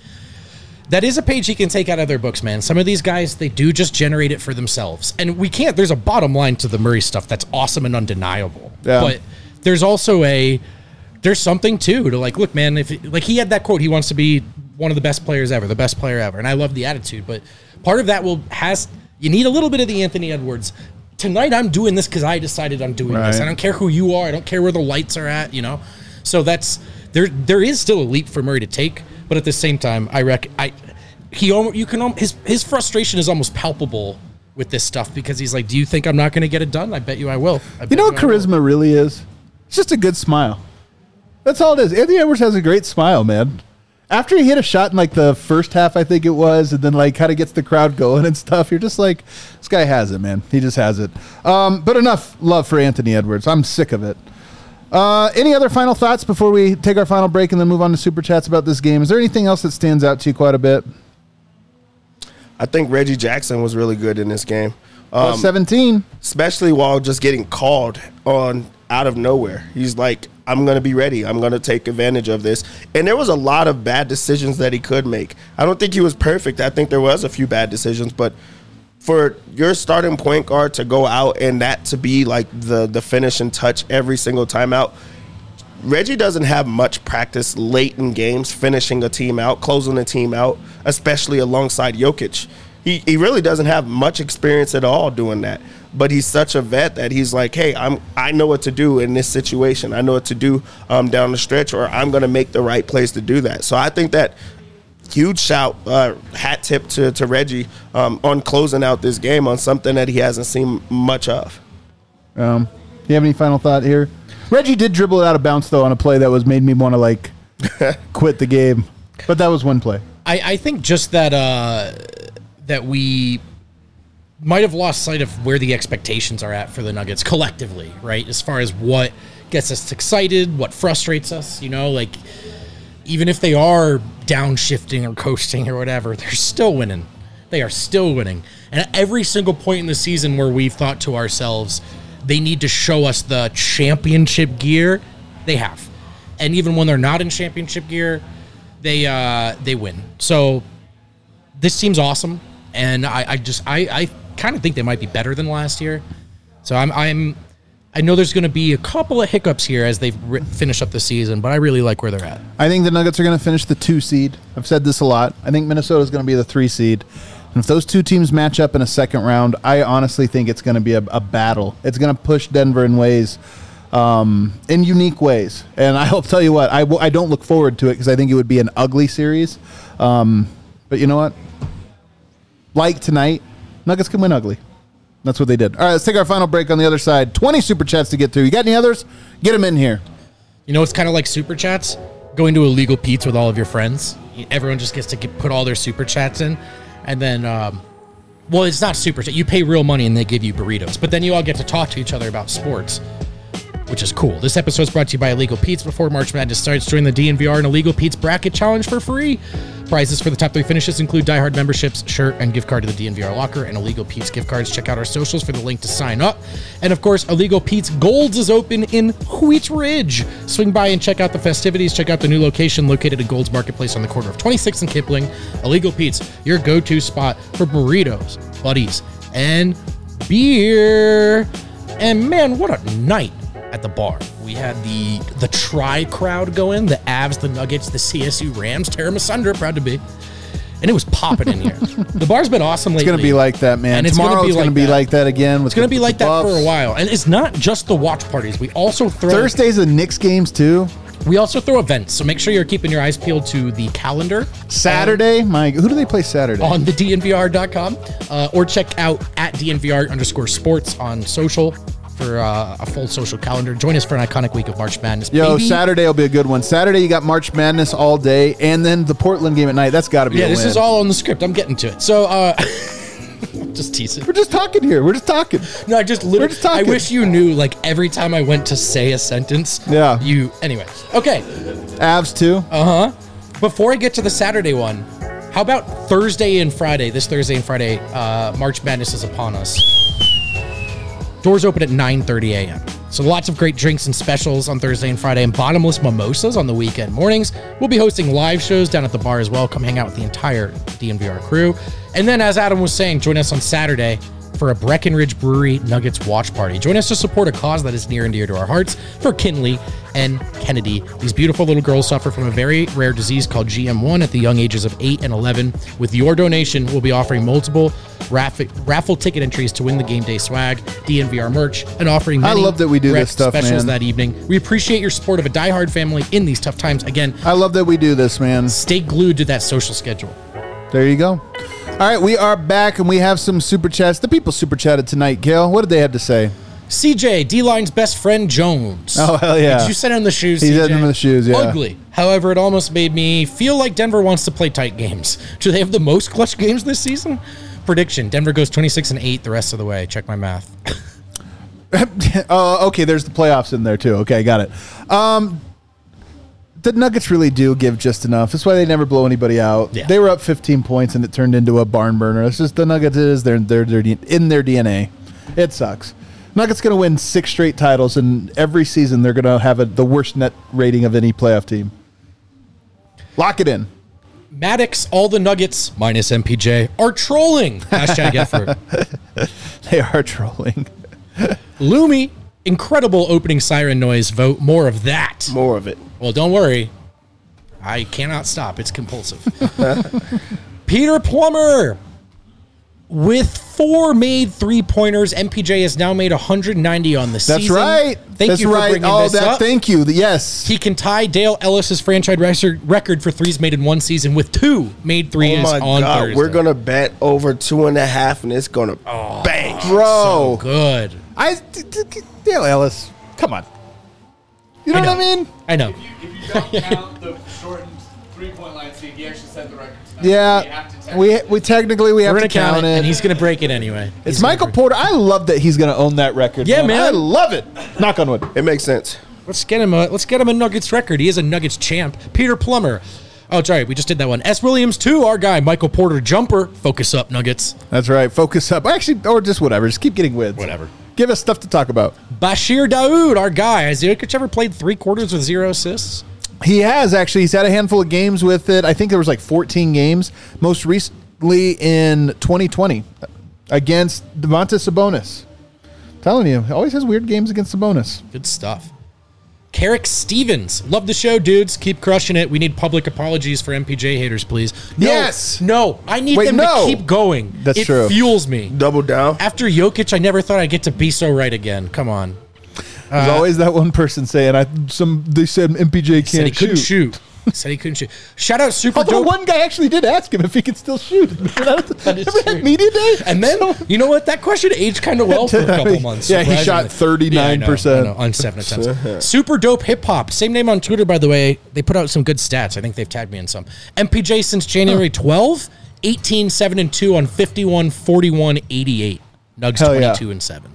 That is a page he can take out of their books, man. Some of these guys, they do just generate it for themselves. And there's a bottom line to the Murray stuff that's awesome and undeniable. Yeah. But there's also there's something too to like, look, man, he had that quote, he wants to be one of the best players ever, the best player ever. And I love the attitude, but part of that you need a little bit of the Anthony Edwards. Tonight I'm doing this because I decided I'm doing this. I don't care who you are. I don't care where the lights are at, So there is still a leap for Murray to take. But at the same time, his frustration is almost palpable with this stuff because he's like, do you think I'm not going to get it done? I bet you I will. You know what charisma really is? It's just a good smile. That's all it is. Anthony Edwards has a great smile, man. After he hit a shot in like the first half, I think it was, and then like kind of gets the crowd going and stuff, you're just like, this guy has it, man. He just has it. But enough love for Anthony Edwards. I'm sick of it. Any other final thoughts before we take our final break and then move on to Super Chats about this game? Is there anything else that stands out to you quite a bit? I think Reggie Jackson was really good in this game. 17. Especially while just getting called on out of nowhere. He's like, I'm going to be ready. I'm going to take advantage of this. And there was a lot of bad decisions that he could make. I don't think he was perfect. I think there was a few bad decisions, but for your starting point guard to go out and that to be like the finishing touch every single time out, Reggie doesn't have much practice late in games finishing a team out, closing a team out, especially alongside Jokic. He really doesn't have much experience at all doing that. But he's such a vet that he's like, hey, I know what to do in this situation. I know what to do down the stretch, or I'm going to make the right plays to do that. So I think that huge shout, hat tip to Reggie on closing out this game on something that he hasn't seen much of. Do you have any final thought here? Reggie did dribble it out of bounds, though, on a play that made me want to, like, quit the game. But that was one play. I think just that we might have lost sight of where the expectations are at for the Nuggets collectively, right? As far as what gets us excited, what frustrates us, like even if they are downshifting or coasting or whatever, they're still winning. They are still winning. And at every single point in the season where we've thought to ourselves, they need to show us the championship gear, they have. And even when they're not in championship gear, they win. So this team's awesome. And I kind of think they might be better than last year. So I know there's going to be a couple of hiccups here as they finish up the season, but I really like where they're at. I think the Nuggets are going to finish the 2 seed. I've said this a lot. I think Minnesota is going to be the 3 seed. And if those two teams match up in a second round, I honestly think it's going to be a battle. It's going to push Denver in ways, in unique ways. And I'll tell you what, I don't look forward to it because I think it would be an ugly series. But you know what? Like tonight, Nuggets can win ugly. That's what they did. All right, let's take our final break on the other side. 20 Super Chats to get through. You got any others? Get them in here. You know, it's kind of like Super Chats. Going to Illegal Pete's with all of your friends. Everyone just gets to put all their Super Chats in. And then, well, it's not Super Chat. You pay real money and they give you burritos. But then you all get to talk to each other about sports. which is cool. This episode is brought to you by Illegal Pete's. Before March Madness starts, join the DNVR and Illegal Pete's Bracket Challenge for free. Prizes for the top 3 finishes include Die Hard memberships, shirt, and gift card to the DNVR locker, and Illegal Pete's gift cards. Check out our socials for the link to sign up. And of course, Illegal Pete's Golds is open in Wheat Ridge. Swing by and check out the festivities. Check out the new location located at Gold's Marketplace on the corner of 26th and Kipling. Illegal Pete's, your go-to spot for burritos, buddies, and beer. And man, what a night at the bar. We had the Tri crowd go in, the Avs, the Nuggets, the CSU Rams, tear them asunder, proud to be. And it was popping in here. The bar's been awesome lately. It's going to be like that, man. And Tomorrow it's going to be like that again. It's going to be like that for a while. And it's not just the watch parties. We also throw... Thursdays the Knicks games, too. We also throw events, so make sure you're keeping your eyes peeled to the calendar. Saturday? Who do they play Saturday? On the DNVR.com. Or check out at DNVR_sports on social for a full social calendar. Join us for an iconic week of March Madness. Yo, baby. Saturday will be a good one. Saturday, you got March Madness all day, and then the Portland game at night. That's got to be a win. This is all on the script. I'm getting to it. So, just teasing. We're just talking here. We're just talking. No, I just literally, just talking. I wish you knew, like, every time I went to say a sentence. Yeah. Anyways. Okay. Avs, too. Before I get to the Saturday one, how about Thursday and Friday? This Thursday and Friday, March Madness is upon us. Doors open at 9:30 a.m. So lots of great drinks and specials on Thursday and Friday, and bottomless mimosas on the weekend mornings. We'll be hosting live shows down at the bar as well. Come hang out with the entire DNVR crew. And then, as Adam was saying, join us on Saturday for a Breckenridge Brewery Nuggets watch party. Join us to support a cause that is near and dear to our hearts for Kinley and Kennedy. These beautiful little girls suffer from a very rare disease called GM1 at the young ages of 8 and 11. With your donation, we'll be offering multiple raffle ticket entries to win the game day swag, DNVR merch, and offering many I love that we do this stuff, specials man. that evening. We appreciate your support of a diehard family in these tough times. Again, I love that we do this, man. stay glued to that social schedule. There you go. All right, we are back, and we have some super chats. The people super chatted tonight, Gail. What did they have to say? CJ, D-Line's best friend, Jones. Oh, hell yeah. Did you send him the shoes, He CJ? sent him the shoes, yeah. Ugly. However, it almost made me feel like Denver wants to play tight games. Do they have the most clutch games this season? Prediction, Denver goes 26-8 the rest of the way. Check my math. Okay, there's the playoffs in there, too. Okay, got it. The Nuggets really do give just enough. That's why they never blow anybody out. Yeah. They were up 15 points, and it turned into a barn burner. It's just the Nuggets is they're in their DNA. It sucks. Nuggets going to win 6 straight titles, and every season they're going to have the worst net rating of any playoff team. Lock it in. Maddox, all the Nuggets, minus MPJ, are trolling. Hashtag effort. They are trolling. Lumi, incredible opening siren noise. Vote more of that. More of it. Well, don't worry. I cannot stop. It's compulsive. Peter Plummer. With 4 made 3-pointers, MPJ has now made 190 on the season. That's right. Thank you for bringing this up. Thank you. Yes. He can tie Dale Ellis's franchise record for threes made in one season with 2 made threes Oh my on God, Thursday. we're gonna bet over 2.5, and it's gonna bang. Bro. So good. Dale Ellis. Come on. You know what I mean? I know. If you don't count the shortened 3-point line speed, he actually set the record tonight. You Yeah. have to We technically have We're to going to count count it, it. and he's going to break it anyway. It's Michael Porter. I love that he's going to own that record. Yeah, man. I love it. Knock on wood. It makes sense. Let's get him a Nuggets record. He is a Nuggets champ. Peter Plummer. Oh, sorry, we just did that one. S. Williams, too, our guy. Michael Porter, jumper. Focus up, Nuggets. That's right. Focus up. Actually, or just whatever. Just keep getting wins. Whatever. Give us stuff to talk about. Bashir Daoud, our guy. Has Jokic ever played 3 quarters with 0 assists? He has, actually. He's had a handful of games with it. I think there was like 14 games. Most recently in 2020 against Domantas Sabonis. I'm telling you, he always has weird games against Sabonis. Good stuff. Carrick Stevens. Love the show, dudes. Keep crushing it. We need public apologies for MPJ haters, please. No, Yes. No. I need them to keep going. That's it true. It fuels me. Double down. After Jokic, I never thought I'd get to be so right again. Come on. There's always that one person saying, they said MPJ Said he can't couldn't shoot. shoot. Said he couldn't shoot. Shout out Super Although Dope. one guy actually did ask him if he could still shoot. That is Remember true. that media day? And then, you know what? That question aged kind of well for a couple months. Yeah, he shot surprisingly. 39%. I know, on 7 attempts. Super Dope Hip Hop. Same name on Twitter, by the way. They put out some good stats. I think they've tagged me in some. MPJ since January 12, 18, 7, and 2 on 51, 41, 88. Nugs Hell yeah. 22 and 7.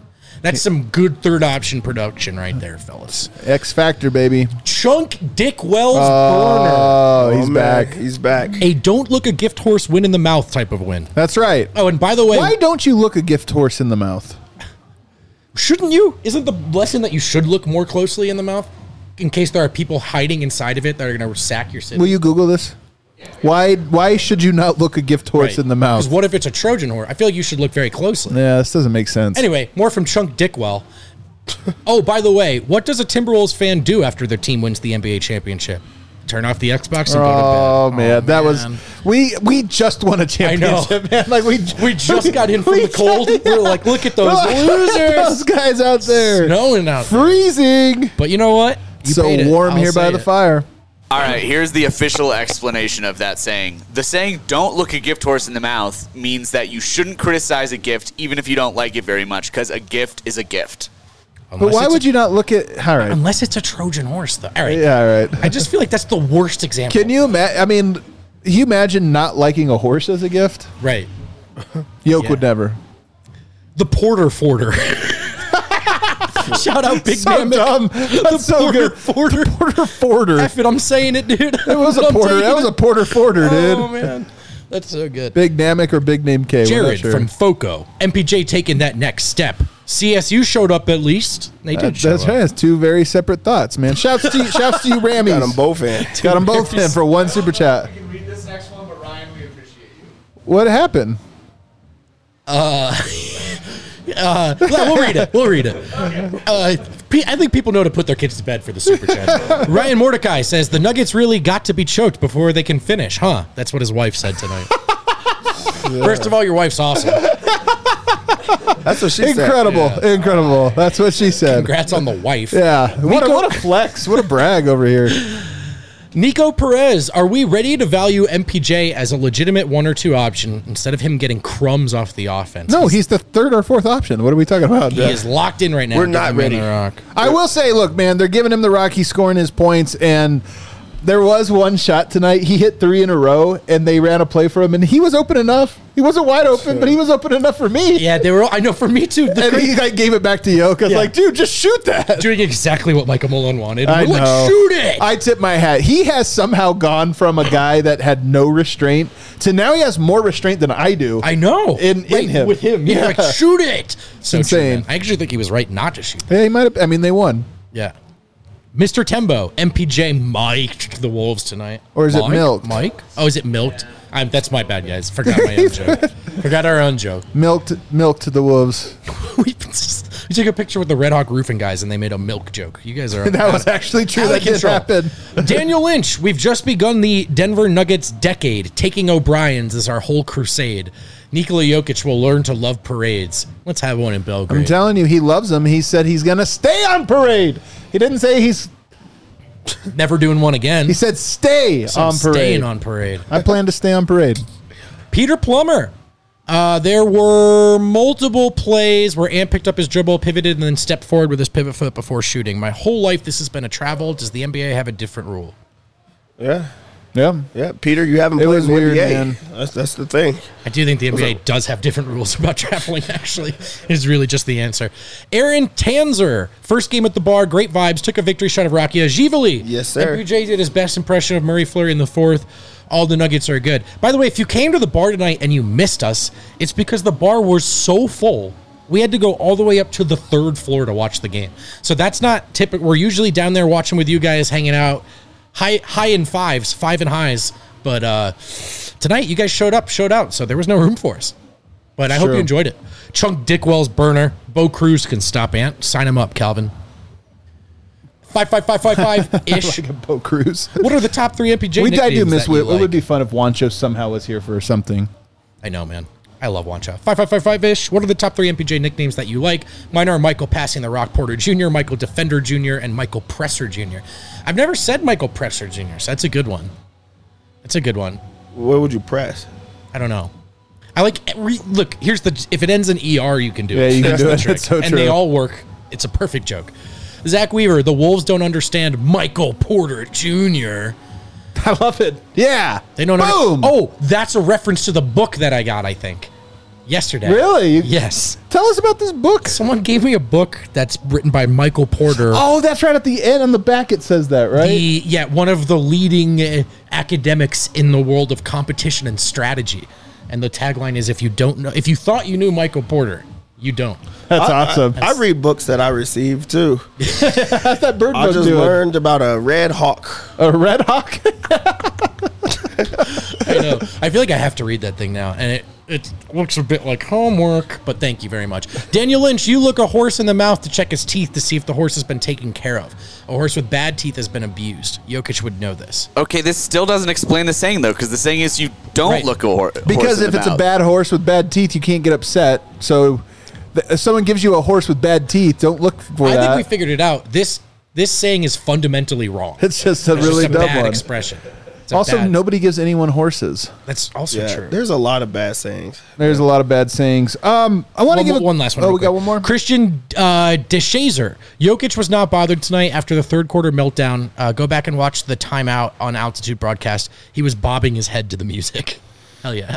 That's some good third option production right there, fellas. X Factor, baby. Chunk Dick Wells Oh, he's man, back. He's back. burner. A don't look a gift horse win in the mouth type of win. That's right. Oh, and by the way, Why don't you look a gift horse in the mouth? shouldn't you? Isn't the lesson that you should look more closely in the mouth in case there are people hiding inside of it that are going to sack your city? Will you Google this? Why should you not look a gift horse in the mouth? Because what if it's a Trojan horse? I feel like you should look very closely. Yeah, this doesn't make sense. Anyway, more from Chunk Dickwell. Oh, by the way, what does a Timberwolves fan do after their team wins the NBA championship? Turn off the Xbox and go to bed. Oh man, that was we just won a championship, man. Like we just got in from the cold. We're like, look at those losers. Those guys out there, Snowing out there. freezing. But you know what? You So paid it. warm I'll here by say the it. fire. All right, here's the official explanation of that saying. The saying, don't look a gift horse in the mouth, means that you shouldn't criticize a gift even if you don't like it very much, because a gift is a gift. But why would you not look at? All right, Unless it's a Trojan horse, though. All right. yeah, all right. I just feel like that's the worst example. Can you imagine? I mean, you imagine not liking a horse as a gift? Right. Yoke Yeah. would never. The Porter Forder. Shout out Big So Man. dumb. That's so Porter good. Forder. Porter Forder. F it, I'm saying it, dude. It was a porter. That was a Porter Forder, dude. Oh, man. That's so good. Big Namek or Big Name K. we're not Jared sure. from FOCO. MPJ taking that next step. CSU showed up at least. They did show That's up. right. It's two very separate thoughts, man. Shouts to you, Rammies. Got them both in. Got them both in for one super chat. I can read this next one, but Ryan, we appreciate you. What happened? We'll read it. We'll read it. I think people know to put their kids to bed for the super chat. Ryan Mordecai says the Nuggets really got to be choked before they can finish, huh? That's what his wife said tonight. First of all, your wife's awesome. That's what she said. Incredible. Incredible. That's what she said. Congrats on the wife. Yeah. What a flex. What a brag over here. Nico Perez, are we ready to value MPJ as a legitimate 1 or 2 option instead of him getting crumbs off the offense? No, he's the third or fourth option. What are we talking about? He is locked in right now. We're Give not him ready. the rock. I will say, look, man, they're giving him the rock. He's scoring his points, and there was one shot tonight. He hit 3 in a row, and they ran a play for him, and he was open enough. He wasn't wide open, but he was open enough for me. Yeah, they were. I know. For me too. And he like gave it back to Yoke. I was Yeah. like, dude, just shoot that. Doing exactly what Michael Malone wanted. I We're like, know. shoot it. I tip my hat. He has somehow gone from a guy that had no restraint to now he has more restraint than I do. I know. In him. With him. Yeah. Like, shoot it. So insane. true, man. I actually think he was right not to shoot. Yeah, he might have. I mean, they won. Yeah. Mr. Tembo, MPJ mic'd the Wolves tonight. Or is it milked? Mike? Oh, is it milked? That's my bad, guys. Forgot my own joke. Forgot our own joke. Milked the Wolves. we took a picture with the Red Hawk Roofing guys, and they made a milk joke. You guys are That was actually true. out That of did control. happen. Daniel Lynch, we've just begun the Denver Nuggets decade. Taking O'Brien's is our whole crusade. Nikola Jokic will learn to love parades. Let's have one in Belgrade. I'm telling you, he loves them. He said he's going to stay on parade. He didn't say he's. Never doing one again. He said stay So I'm on parade. staying on parade. I plan to stay on parade. Peter Plummer. There were multiple plays where Ant picked up his dribble, pivoted, and then stepped forward with his pivot foot before shooting. My whole life, this has been a travel. Does the NBA have a different rule? Yeah. Yeah. Yeah. Peter, you haven't It played was in the weird, NBA. man. That's the thing. I do think the NBA does have different rules about traveling, actually, is really just the answer. Aaron Tanzer, first game at the bar, great vibes, took a victory shot of Rakia Givali. Yes, sir. MPJ did his best impression of Murray Fleury in the fourth. All the Nuggets are good. By the way, if you came to the bar tonight and you missed us, it's because the bar was so full. We had to go all the way up to the 3rd floor to watch the game. So that's not typical. We're usually down there watching with you guys, hanging out, high in fives, 5 and highs. But tonight, you guys showed out, so there was no room for us. But I hope True. you enjoyed it. Chunk Dickwell's burner. Bo Cruz can stop Ant. Sign him up, Calvin. 55555-ish. Like a boat cruise. What are the top 3 MPJ I nicknames do miss that you It would like? be fun if Wancho somehow was here for something. I know, man. I love Wancha. 5555-ish. What are the top 3 MPJ nicknames that you like? Mine are Michael Passing the Rock Porter Jr., Michael Defender Jr., and Michael Presser Jr. I've never said Michael Presser Jr., so that's a good one. That's a good one. What would you press? I don't know. I like look. Here's the if it ends in ER, you can do Yeah, it. you can That's do the it. trick. That's so and true. they all work. It's a perfect joke. Zach Weaver, the Wolves don't understand Michael Porter Jr. I love it. Yeah. They don't. Boom. Oh, that's a reference to the book that I got. I think. yesterday. Really? Yes. Tell us about this book. Someone gave me a book that's written by Michael Porter. Oh, that's right. At the end, on the back, it says that, right? One of the leading academics in the world of competition and strategy. And the tagline is, if you thought you knew Michael Porter, you don't. That's awesome. I read books that I received too. How's that bird I book just doing? learned about a red hawk. A red hawk? I know. I feel like I have to read that thing now. And it looks a bit like homework, but thank you very much. Daniel Lynch, you look a horse in the mouth to check his teeth to see if the horse has been taken care of. A horse with bad teeth has been abused. Jokic would know this. Okay, this still doesn't explain the saying, though, because the saying is you don't Right. look a horse. Because if it's a bad horse with bad teeth, you can't get upset. So if someone gives you a horse with bad teeth, don't look for I that. think we figured it out. This saying is fundamentally wrong. It's just a It's really just a dumb bad one. expression. It's a Also, bad- nobody gives anyone horses. That's also Yeah, true. there's a lot of bad sayings. There's a lot of bad sayings. I want to give one last one. Oh, real we got quick. one more. Christian DeShazer. Jokic was not bothered tonight after the third quarter meltdown. Go back and watch the timeout on Altitude broadcast. He was bobbing his head to the music. Hell yeah.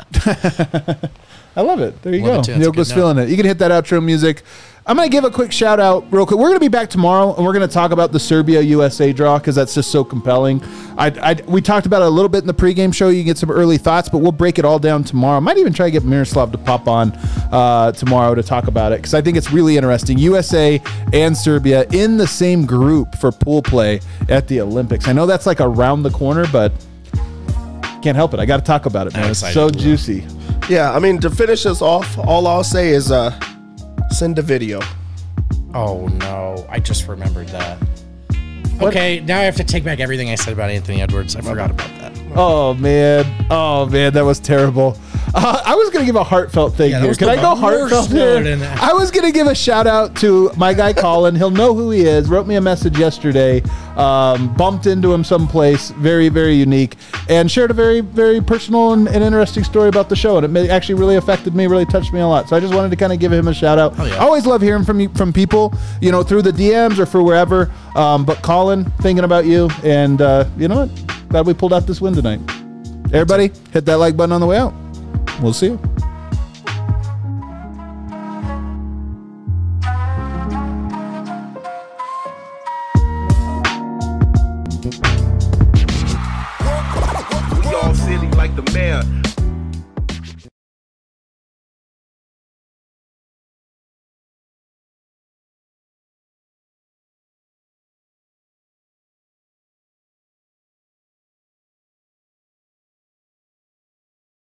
I love it. There you Love go. it too. That's a Yoke was good note. feeling it. You can hit that outro music. I'm going to give a quick shout out real quick. We're going to be back tomorrow, and we're going to talk about the Serbia-USA draw because that's just so compelling. We talked about it a little bit in the pregame show. You can get some early thoughts, but we'll break it all down tomorrow. Might even try to get Miroslav to pop on tomorrow to talk about it because I think it's really interesting. USA and Serbia in the same group for pool play at the Olympics. I know that's like around the corner, but can't help it. I got to talk about it, man. I'm It's excited so to. juicy. Yeah, I mean, to finish us off, all I'll say is send a video. Oh, no. I just remembered that. Okay, now I have to take back everything I said about Anthony Edwards. I forgot about that. Oh man, that was terrible. I was gonna give a heartfelt thing Yeah, that here. was Can I the go worst heartfelt note here? in that. I was gonna give a shout out to my guy Colin. He'll know who he is. Wrote me a message yesterday. Bumped into him someplace. Very, very unique, and shared a very, very personal and interesting story about the show. And it actually really affected me. Really touched me a lot. So I just wanted to kind of give him a shout out. yeah. I always love hearing from people, through the DMs or for wherever. But Colin, thinking about you, and you know what? Glad we pulled out this win tonight. Everybody, hit that like button on the way out. We'll see you.